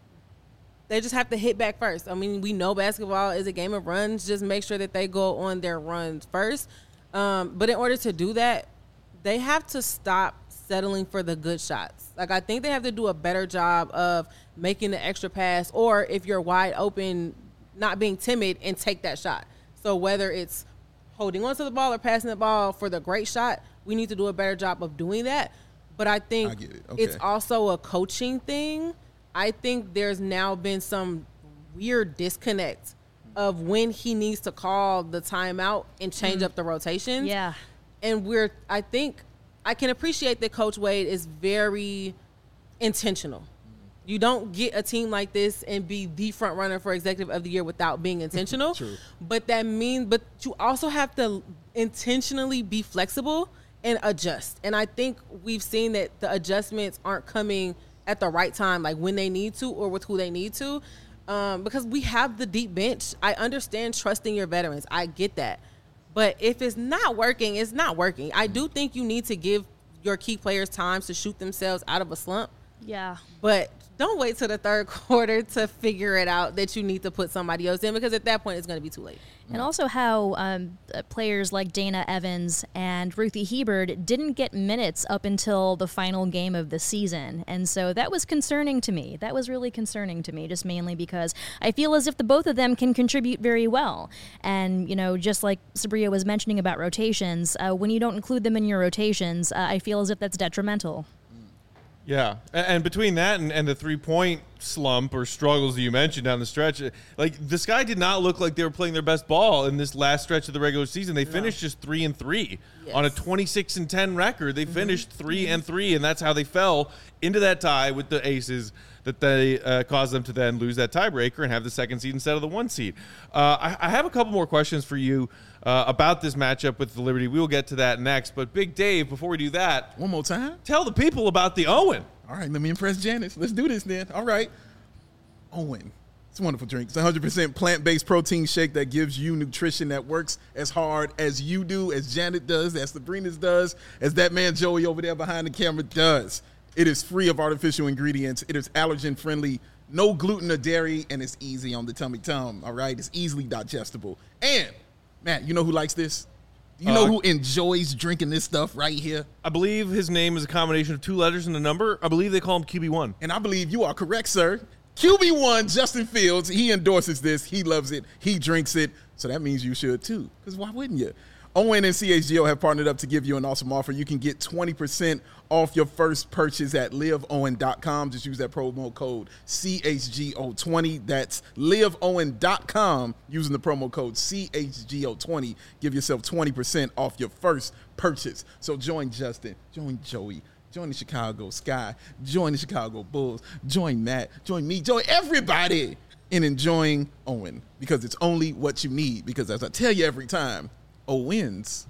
they just have to hit back first. I mean, we know basketball is a game of runs. Just make sure that they go on their runs first. Um, but in order to do that, they have to stop settling for the good shots. Like, I think they have to do a better job of making the extra pass, or if you're wide open, not being timid and take that shot. So whether it's holding onto the ball or passing the ball for the great shot, we need to do a better job of doing that. But I think I get it. Okay. it's also a coaching thing. I think there's now been some weird disconnect of when he needs to call the timeout and change up the rotations. Yeah. And we're, I think, I can appreciate that Coach Wade is very intentional. You don't get a team like this and be the front runner for Executive of the Year without being intentional. True. But that means, but you also have to intentionally be flexible and adjust. And I think we've seen that the adjustments aren't coming at the right time, like when they need to or with who they need to. Um, because we have the deep bench. I understand trusting your veterans. I get that. But if it's not working, it's not working. I do think you need to give your key players time to shoot themselves out of a slump. Yeah. But don't wait till the third quarter to figure it out that you need to put somebody else in, because at that point it's going to be too late. And also how um, uh, players like Dana Evans and Ruthie Hebard didn't get minutes up until the final game of the season. And so that was concerning to me. That was really concerning to me, just mainly because I feel as if the both of them can contribute very well. And, you know, just like Sabria was mentioning about rotations, uh, when you don't include them in your rotations, uh, I feel as if that's detrimental. Yeah, and, and between that and, and the three-point slump or struggles that you mentioned down the stretch, like the Sky did not look like they were playing their best ball in this last stretch of the regular season. They finished just three and three Yes. on a twenty-six and ten record. They finished three and three, and that's how they fell into that tie with the Aces that they uh, caused them to then lose that tiebreaker and have the second seed instead of the one seed. Uh, I, I have a couple more questions for you uh, about this matchup with the Liberty. We will get to that next, but Big Dave, before we do that, One more time. tell the people about the Owen. All right, let me impress Janice. Let's do this then. All right. Owen. It's a wonderful drink. It's a one hundred percent plant-based protein shake that gives you nutrition that works as hard as you do, as Janet does, as Sabrina's does, as that man Joey over there behind the camera does. It is free of artificial ingredients. It is allergen-friendly, no gluten or dairy, and it's easy on the tummy tum, all right? It's easily digestible. And, Matt, you know who likes this? You know Uh, who enjoys drinking this stuff right here? I believe his name is a combination of two letters and a number. I believe they call him Q B one. And I believe you are correct, sir. Q B one, Justin Fields, he endorses this. He loves it. He drinks it. So that means you should too. Because why wouldn't you? Owen and C H G O have partnered up to give you an awesome offer. You can get twenty percent off your first purchase at live owen dot com. Just use that promo code C H G O twenty. That's live owen dot com using the promo code C H G O twenty. Give yourself twenty percent off your first purchase. So join Justin, join Joey, join the Chicago Sky, join the Chicago Bulls, join Matt, join me, join everybody in enjoying Owen, because it's only what you need. Because as I tell you every time, O wins.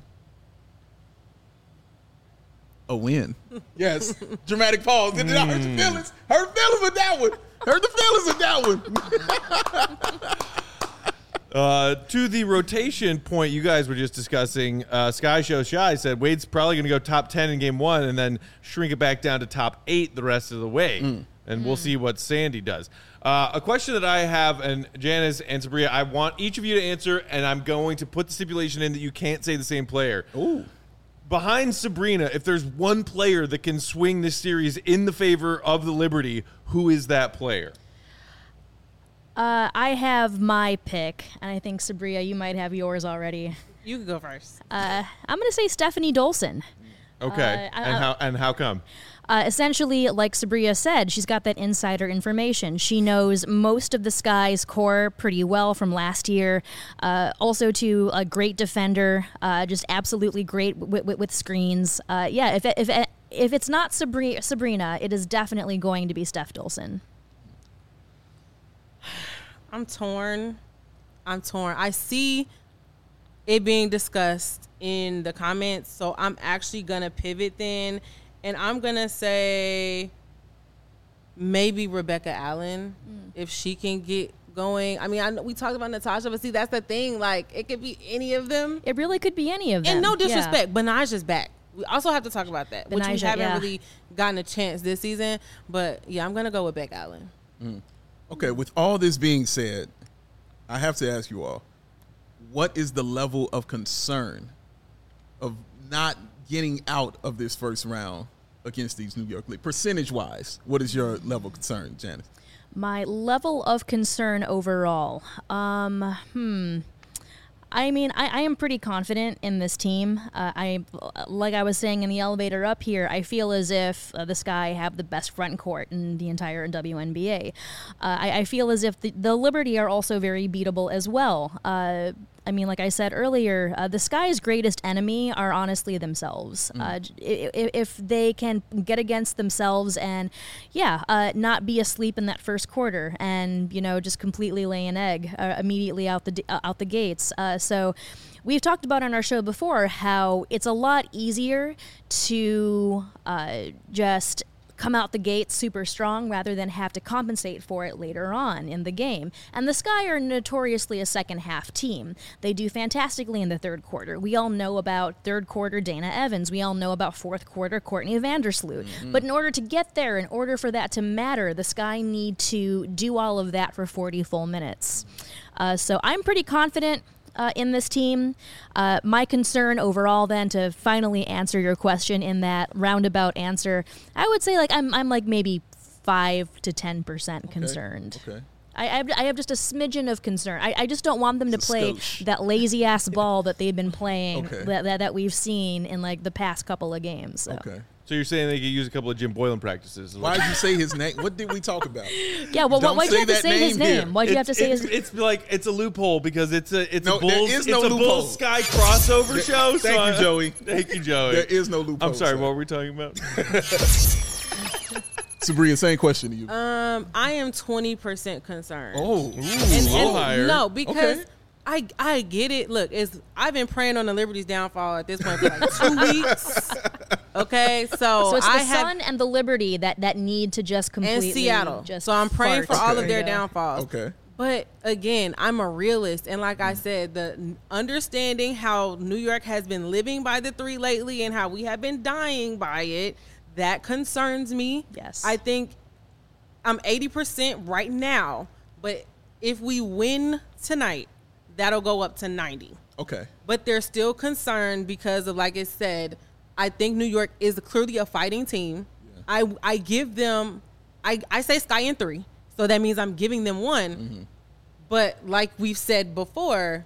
A win. Yes. Dramatic pause. Did it hurt your feelings? Hurt feelings with that one. Hurt the feelings of that one. Uh, to the rotation point you guys were just discussing, uh, Sky Show Shy said Wade's probably going to go top ten in game one and then shrink it back down to top eight the rest of the way. Mm. And mm. we'll see what Sandy does. Uh, a question that I have, and Janice and Sabria, I want each of you to answer, and I'm going to put the stipulation in that you can't say the same player. Ooh. Behind Sabrina, if there's one player that can swing this series in the favor of the Liberty, who is that player? Uh, I have my pick, and I think, Sabria, you might have yours already. You can go first. Uh, I'm going to say Stephanie Dolson. Okay, Uh, I- and how and how come? Uh, essentially, like Sabria said, she's got that insider information. She knows most of the Sky's core pretty well from last year. Uh, also, to a great defender, uh, just absolutely great w- w- with screens. Uh, yeah, if if if it's not Sabri- Sabrina, it is definitely going to be Steph Dolson. I'm torn. I'm torn. I see it being discussed in the comments, so I'm actually gonna pivot then, and I'm gonna say maybe Rebecca Allen mm. if she can get going. I mean, I know we talked about Natasha, but see, that's the thing. Like, it could be any of them. It really could be any of them. And no disrespect, yeah. Benaja's back. We also have to talk about that, Benaja, which we haven't yeah. really gotten a chance this season. But yeah, I'm gonna go with Beck Allen. Mm. Okay, with all this being said, I have to ask you all, what is the level of concern of not getting out of this first round against these New York Knicks? Percentage-wise, what is your level of concern, Janice? My level of concern overall. Um, hmm. I mean, I, I am pretty confident in this team. Uh, I, like I was saying in the elevator up here, I feel as if uh, the Sky have the best front court in the entire W N B A. Uh, I, I feel as if the, the Liberty are also very beatable as well. Uh, I mean, like I said earlier, uh, the Sky's greatest enemy are honestly themselves. Mm. Uh, if, if they can get against themselves and, yeah, uh, not be asleep in that first quarter and, you know, just completely lay an egg uh, immediately out the uh, out the gates. Uh, so we've talked about on our show before how it's a lot easier to uh, just come out the gate super strong rather than have to compensate for it later on in the game. And the Sky are notoriously a second half team. They do fantastically in the third quarter. We all know about third quarter Dana Evans. We all know about fourth quarter Courtney Vandersloot. Mm-hmm. But in order to get there, in order for that to matter, the Sky need to do all of that for forty full minutes. Uh, so I'm pretty confident Uh, in this team. Uh, my concern overall then, to finally answer your question in that roundabout answer, I would say like I'm I'm like maybe five to ten percent concerned. Okay. I, I, have, I have just a smidgen of concern. I, I just don't want them to It's a play skosh. that lazy ass ball that they've been playing Okay. that, that that we've seen in like the past couple of games. So. Okay. So you're saying they could use a couple of Jim Boylan practices? Why did you say his name? What did we talk about? Yeah, well, Don't why'd you say have to that say his name here. name? Why'd you have to It's- say it's, his It's like it's a loophole because it's a it's No, a there Bulls is it's no a loophole. Bulls Sky crossover show. Thank so you, I- Joey. Thank you, Joey. There is no loophole. I'm sorry. sir. What were we talking about? Sabria, same question to you. Um, I am twenty percent concerned. oh, Ooh, And- a little and- higher. No, because Okay. I I get it. Look, it's I've been praying on the Liberty's downfall at this point for like two weeks. Okay, so, so it's I the have Sun and the Liberty that, that need to just and completely Seattle. just So I'm praying fart. for all of There their you go. downfalls. okay. But again, I'm a realist, and like I said, the n- understanding how New York has been living by the three lately and how we have been dying by it, that concerns me. Yes. I think I'm eighty percent right now, but if we win tonight, that'll go up to ninety. Okay. But they're still concerned because of, like I said, I think New York is clearly a fighting team. Yeah. I I give them, I, I say Sky in three, so that means I'm giving them one. Mm-hmm. But like we've said before,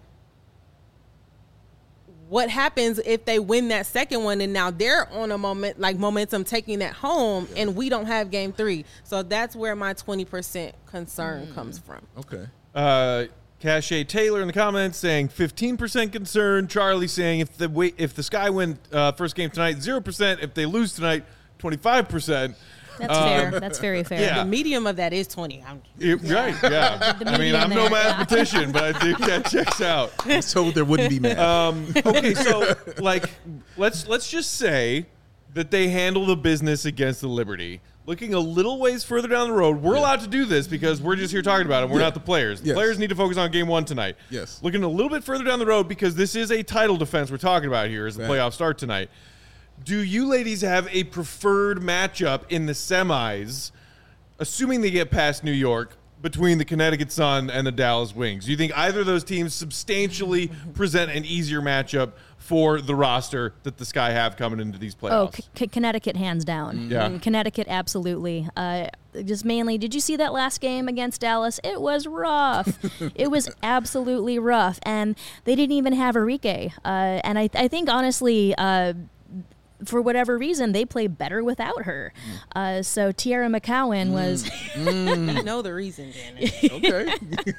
what happens if they win that second one and now they're on a moment like momentum taking that home Yeah. and we don't have game three? So that's where my twenty percent concern Mm. comes from. Okay. Uh, Cache Taylor in the comments saying fifteen percent concerned. Charlie saying if the wait, if the Sky win uh, first game tonight, zero percent. If they lose tonight, twenty-five percent. That's fair. That's very fair. yeah. The medium of that is twenty. I'm, Right, yeah. The I mean, median I'm no there, yeah. mathematician, but I think that checks out. I was told there wouldn't be math. Um, okay, so like, let's let's just say that they handle the business against the Liberty. looking a little ways further down the road. We're yeah. allowed to do this because we're just here talking about it. We're yeah. not the players. The yes. players need to focus on game one tonight. Yes. Looking a little bit further down the road because this is a title defense we're talking about here as the right. playoffs start tonight. Do you ladies have a preferred matchup in the semis, assuming they get past New York, between the Connecticut Sun and the Dallas Wings? Do you think either of those teams substantially present an easier matchup for the roster that the Sky have coming into these playoffs? Oh, C- Connecticut hands down. Yeah. Mm, Connecticut, absolutely. Uh, just mainly, did you see that last game against Dallas? It was rough. It was absolutely rough. And they didn't even have Enrique. Uh, and I, I think, honestly, uh, for whatever reason, they play better without her. Uh, so Tiara McCowan was... Mm. You know the reason, Janet. Okay.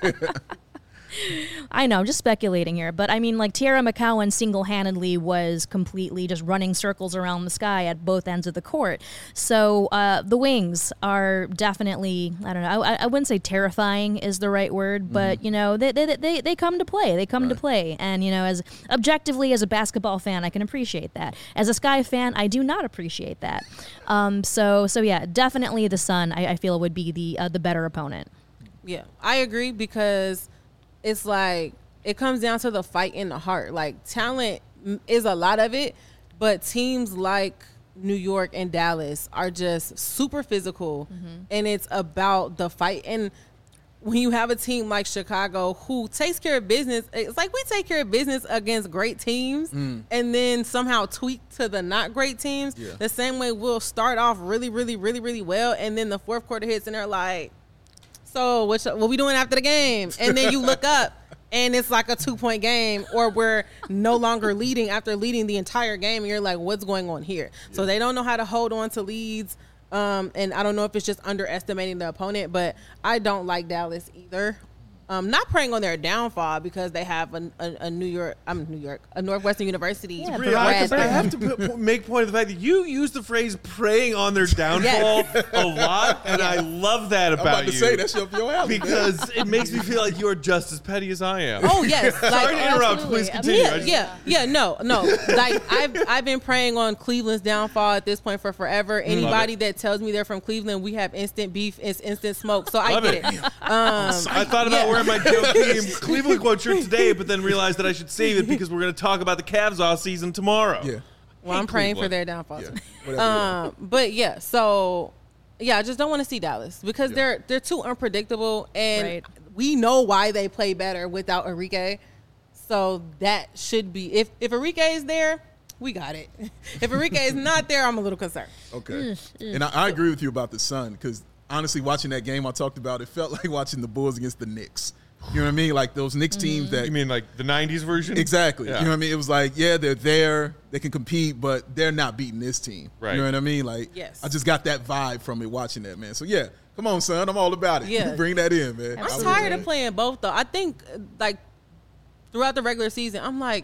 I know, I'm just speculating here. But, I mean, like, Tiara McCowan single-handedly was completely just running circles around the Sky at both ends of the court. So uh, the Wings are definitely, I don't know, I, I wouldn't say terrifying is the right word, but, mm. you know, they, they they they come to play. They come right. to play. And, you know, as objectively as a basketball fan, I can appreciate that. As a Sky fan, I do not appreciate that. Um, so, so yeah, definitely the Sun, I, I feel, would be the uh, the better opponent. Yeah, I agree because... it's like it comes down to the fight in the heart. Like, talent is a lot of it, but teams like New York and Dallas are just super physical, mm-hmm. and it's about the fight. And when you have a team like Chicago who takes care of business, it's like we take care of business against great teams mm. and then somehow tweak to the not great teams. Yeah. The same way we'll start off really, really, really, really well, and then the fourth quarter hits and they're like, so what, what we doing after the game? And then you look up and it's like a two-point game, or we're no longer leading after leading the entire game, and you're like, what's going on here? Yeah. So they don't know how to hold on to leads, um, and I don't know if it's just underestimating the opponent, but I don't like Dallas either. Um, not preying on their downfall because they have a, a, a New York, I'm New York, a Northwestern University. Yeah, Bria, I, have to, I have to put, make point of the fact that you use the phrase "preying on their downfall" yes. a lot, and yes. I love that about, I'm about to you. Say that's your alley, because it makes me feel like you are just as petty as I am. Oh yes, sorry like, to interrupt. Absolutely. Please continue. Yeah, yeah, yeah. No, no. Like I've I've been preying on Cleveland's downfall at this point for forever. Anybody that tells me they're from Cleveland, we have instant beef, it's instant smoke. So I love get it. it. Um, I thought about yeah. wearing my Joe Team Cleveland quote shirt today, but then realized that I should save it because we're going to talk about the Cavs off season tomorrow. Yeah. Well, I'm praying Cleveland. for their downfall. Yeah. Whatever, um, but yeah, so yeah, I just don't want to see Dallas because yeah. they're they're too unpredictable, and right. we know why they play better without Enrique. So that should be if if Enrique is there, we got it. If Enrique is not there, I'm a little concerned. Okay, and I, I agree with you about the Sun because honestly, watching that game I talked about, it felt like watching the Bulls against the Knicks. You know what I mean? Like those Knicks teams that... You mean like the nineties version? Exactly. Yeah. You know what I mean? It was like, yeah, they're there. They can compete, but they're not beating this team. Right. You know what I mean? Like, yes. I just got that vibe from it watching that, man. So, yeah, come on, son. I'm all about it. Yeah. Bring that in, man. I'm tired of playing both, though. I think, like, throughout the regular season, I'm like...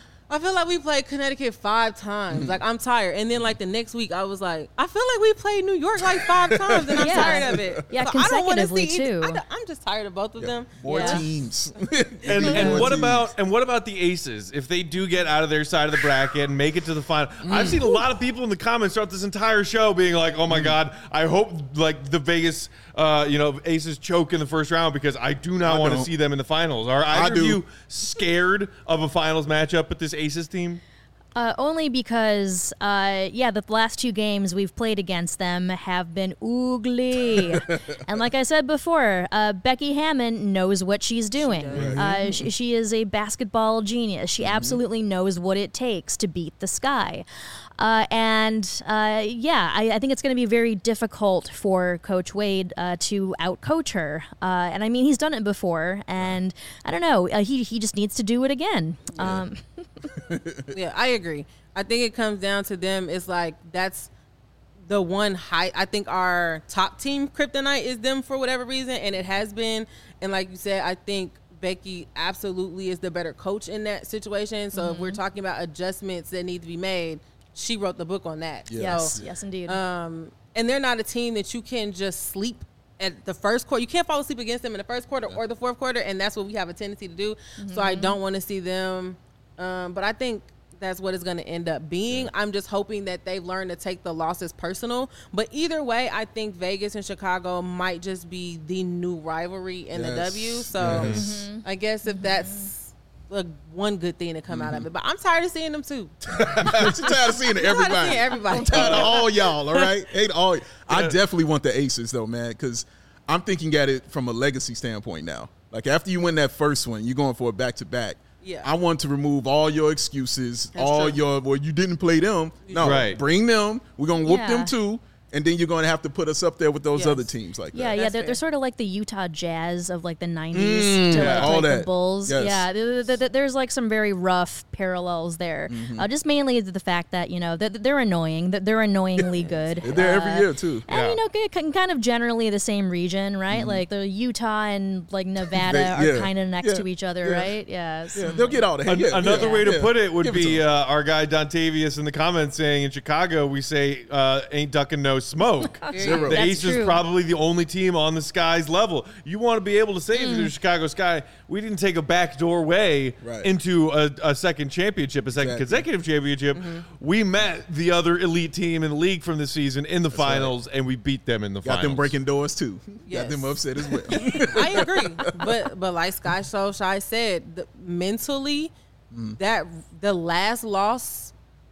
I feel like we played Connecticut five times. Mm-hmm. Like, I'm tired. And then, like, the next week, I was like, I feel like we played New York, like, five times, and I'm yeah. tired of it. Yeah, so consecutively, I don't see, too. I I'm just tired of both of yeah. them. More yeah. teams. and and what about and what about the Aces? If they do get out of their side of the bracket and make it to the final, mm. I've seen a lot of people in the comments throughout this entire show being like, "Oh my mm. God, I hope like the Vegas, uh, you know, Aces choke in the first round because I do not want to see them in the finals." Are either of you scared of a finals matchup with this Aces team? Uh, only because, uh, yeah, the last two games we've played against them have been ugly. And like I said before, uh, Becky Hammon knows what she's doing. She, uh, she, she is a basketball genius. She mm-hmm. absolutely knows what it takes to beat the Sky. Uh, and, uh, yeah, I, I think it's going to be very difficult for Coach Wade uh, to outcoach her. Uh, and, I mean, he's done it before. And, I don't know, uh, he, he just needs to do it again. Yeah. Um, yeah, I agree. I think it comes down to them. It's like that's the one height. I think our top team kryptonite is them for whatever reason, and it has been. And like you said, I think Becky absolutely is the better coach in that situation. So mm-hmm. if we're talking about adjustments that need to be made, she wrote the book on that. Yeah. Yes, so, yes, indeed. Um, and they're not a team that you can just sleep at the first quarter. You can't fall asleep against them in the first quarter or the fourth quarter, and that's what we have a tendency to do. Mm-hmm. So I don't want to see them. Um, but I think that's what it's going to end up being. Yeah. I'm just hoping that they've learned to take the losses personal. But either way, I think Vegas and Chicago might just be the new rivalry in yes. the W. So yes. mm-hmm. I guess if that's like one good thing to come mm-hmm. out of it. But I'm tired of seeing them too. She's tired of seeing everybody. I'm tired of seeing everybody. I'm tired of all y'all, all right? Hate all. I definitely want the Aces though, man, because I'm thinking at it from a legacy standpoint now. Like after you win that first one, you're going for a back-to-back. Yeah. I want to remove all your excuses, That's all true. your, well, you didn't play them. No, right. bring them. We're going to whoop yeah. them too. And then you're going to have to put us up there with those yes. other teams like yeah, that. Yeah, yeah. They're, they're sort of like the Utah Jazz of like the nineties mm, to yeah, like, all like that. the Bulls. Yes. Yeah, there, there, there's like some very rough parallels there. Mm-hmm. Uh, just mainly the fact that, you know, they're, they're annoying. They're annoyingly good. They're there uh, every year too. And, yeah. you know, kind of generally the same region, right? Mm-hmm. Like the Utah and like Nevada they, yeah. are kind of next yeah. to each other, yeah. right? Yeah. yeah. They'll get all that. An- yeah. Another yeah. way to yeah. put it would Give be it uh, our guy Dontavius in the comments saying in Chicago, we say uh, ain't ducking no smoke. Zero. The That's Aces true. probably the only team on the Sky's level. You want to be able to say Mm. to the Chicago Sky, we didn't take a backdoor way right. into a, a second championship, a second exactly. consecutive championship. Mm-hmm. We met the other elite team in the league from this season in the That's finals, right. and we beat them in the Got finals. Got them breaking doors too. Yes. Got them upset as well. I agree, but but like Sky So Shy said, the, mentally, mm. that the last loss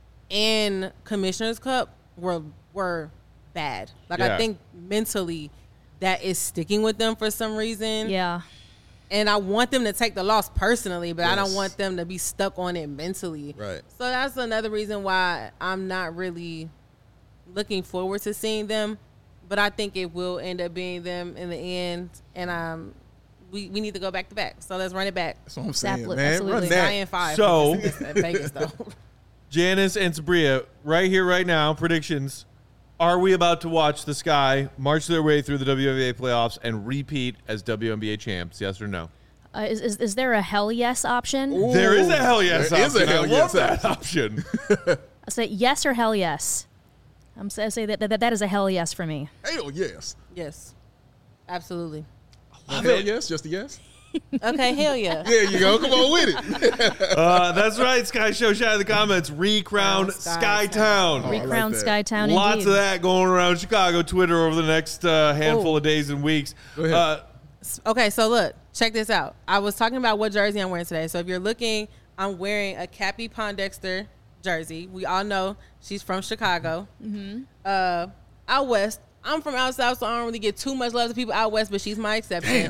in Commissioner's Cup were were. bad. Like yeah. I think mentally that is sticking with them for some reason. Yeah. And I want them to take the loss personally, but yes. I don't want them to be stuck on it mentally. Right. So that's another reason why I'm not really looking forward to seeing them. But I think it will end up being them in the end. And um we, we need to go back to back. So let's run it back. That's what I'm saying, Absolutely. man. Absolutely. Run that. Nine and five. So Vegas though. Janice and Sabria, right here, right now, predictions. Are we about to watch the Sky march their way through the W N B A playoffs and repeat as W N B A champs? Yes or no? Uh, is, is is there a hell yes option? Ooh, there is a hell yes there option. Is a hell I yes love that option. I say yes or hell yes. I'm I say that, that that is a hell yes for me. Hell yes. Yes. Absolutely. Hell it. yes, just a yes. Okay, hell yeah. There you go. Come on with it. uh, that's right, Sky Show Shy in the comments. Recrown oh, Sky Town. Oh, Recrown like Sky Town. Lots indeed. of that going around Chicago Twitter over the next uh, handful Ooh. of days and weeks. Uh, okay, so look, check this out. I was talking about what jersey I'm wearing today. So if you're looking, I'm wearing a Cappie Pondexter jersey. We all know she's from Chicago. Mm-hmm. Uh, out west. I'm from out south, so I don't really get too much love to people out west, but she's my exception.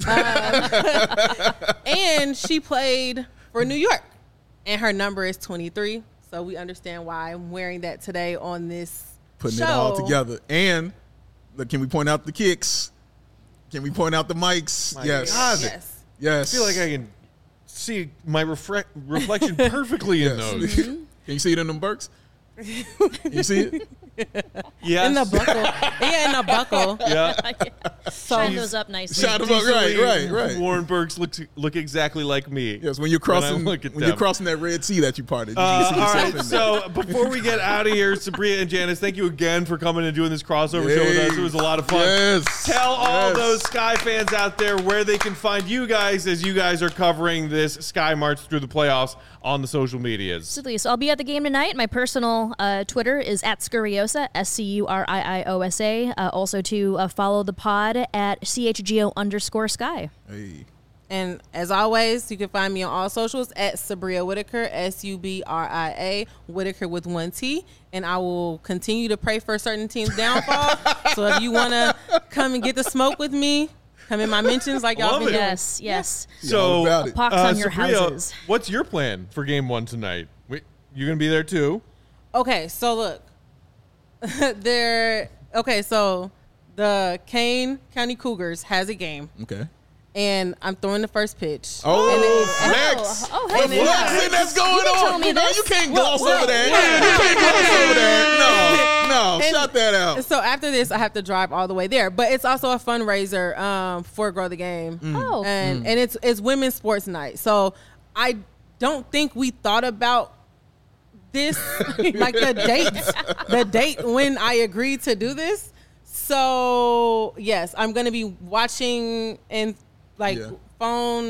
uh, and she played for New York, and her number is twenty-three. So we understand why I'm wearing that today on this Putting show. it all together. And look, can we point out the kicks? Can we point out the mics? My yes. God. Yes. Yes. I feel like I can see my refre- reflection perfectly in yes. those. Mm-hmm. Can you see it in them Burks? Can you see it? Yes. In the buckle. Yeah, in the buckle. Yeah. So shine those up nicely. Shine them up, right, right, right. Warren Burks look look exactly like me. Yes, when you're crossing when, when you're crossing that Red Sea that you parted. You uh, all right, so before we get out of here, Sabria and Janice, thank you again for coming and doing this crossover Yay. show with us. It was a lot of fun. Yes. Tell all yes. those Sky fans out there where they can find you guys as you guys are covering this Sky March through the playoffs on the social medias. Absolutely. So I'll be at the game tonight. My personal uh, Twitter is at Scurriosa, S C U R I I O S A. Uh, also to uh, follow the pod at C H G O underscore Sky. Hey. And as always, you can find me on all socials at Sabria Whitaker, S U B R I A, Whitaker with one T. And I will continue to pray for certain teams' downfall. So if you want to come and get the smoke with me, come in my mentions like y'all Love been it. doing. Yes, yes. So, Yeah, Pox uh, on your Sabria, houses. what's your plan for game one tonight? Wait, you're going to be there too? Okay, so look. There. Okay, so the Kane County Cougars has a game. Okay. And I'm throwing the first pitch. Oh, and it, flex. Oh, hey, What flexing that's going You didn't on? tell me You know, this. you can't Well, gloss well, over that. yeah. You can't gloss over that. No, no, And- shut that out. So after this, I have to drive all the way there. But it's also a fundraiser um, for Grow the Game. Oh. And and it's it's women's sports night. So I don't think we thought about this, like the date, the date when I agreed to do this. So yes, I'm gonna be watching and like Yeah. phone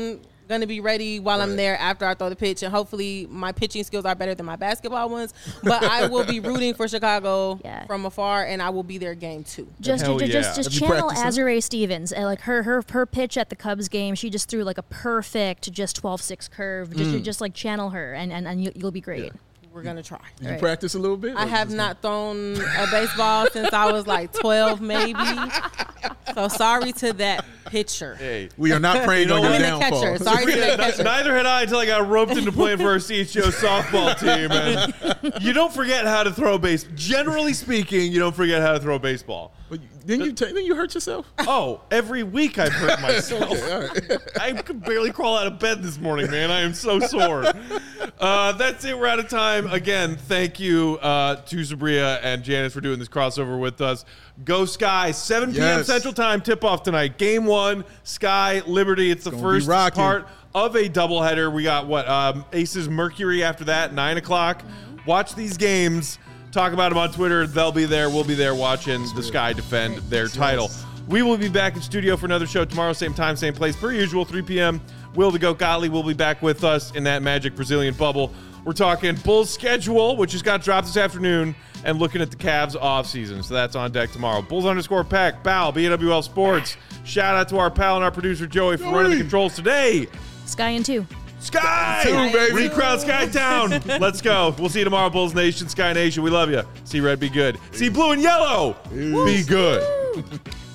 going to be ready while right. I'm there after I throw the pitch. And hopefully my pitching skills are better than my basketball ones. But I will be rooting for Chicago yeah. from afar, and I will be there game two. Just Hell just, yeah. just, just channel Azurá Stevens. Uh, like her, her her pitch at the Cubs game, she just threw like a perfect just twelve six curve. Just, mm. just like channel her, and, and, and you, you'll be great. Yeah. We're going to try. Did you right. practice a little bit? I have not thrown a baseball since I was like twelve, maybe. So sorry to that pitcher. Hey, we are not praying on your downfall. Catcher. Sorry to that catcher. Neither had I until I got roped into playing for our C H G O softball team. And you don't forget how to throw a base. Generally speaking, you don't forget how to throw a baseball. But didn't you, t- didn't you hurt yourself? Oh, every week I've hurt myself. Okay, all right. I could barely crawl out of bed this morning, man. I am so sore. Uh, that's it. We're out of time. Again, thank you uh, to Sabria and Janice for doing this crossover with us. Go Sky, seven p.m. Yes. Central Time, tip-off tonight. Game one, Sky, Liberty. It's the Gonna first be rocking. part of a doubleheader. We got, what, um, Aces Mercury after that, nine o'clock. Watch these games. Talk about them on Twitter. They'll be there. We'll be there watching the Sky defend their title. We will be back in studio for another show tomorrow, same time, same place, per usual, three p.m. Will the Goat Gottlieb will be back with us in that magic Brazilian bubble. We're talking Bulls schedule, which just got dropped this afternoon, and looking at the Cavs offseason. So that's on deck tomorrow. Bulls underscore Peck, Bow, B W L Sports. Shout out to our pal and our producer, Joey, for running the controls today. Sky and two. Sky! Two, baby. Recrowd Sky Town. Let's go. We'll see you tomorrow, Bulls Nation, Sky Nation. We love you. See red, be good. See blue and yellow, be good.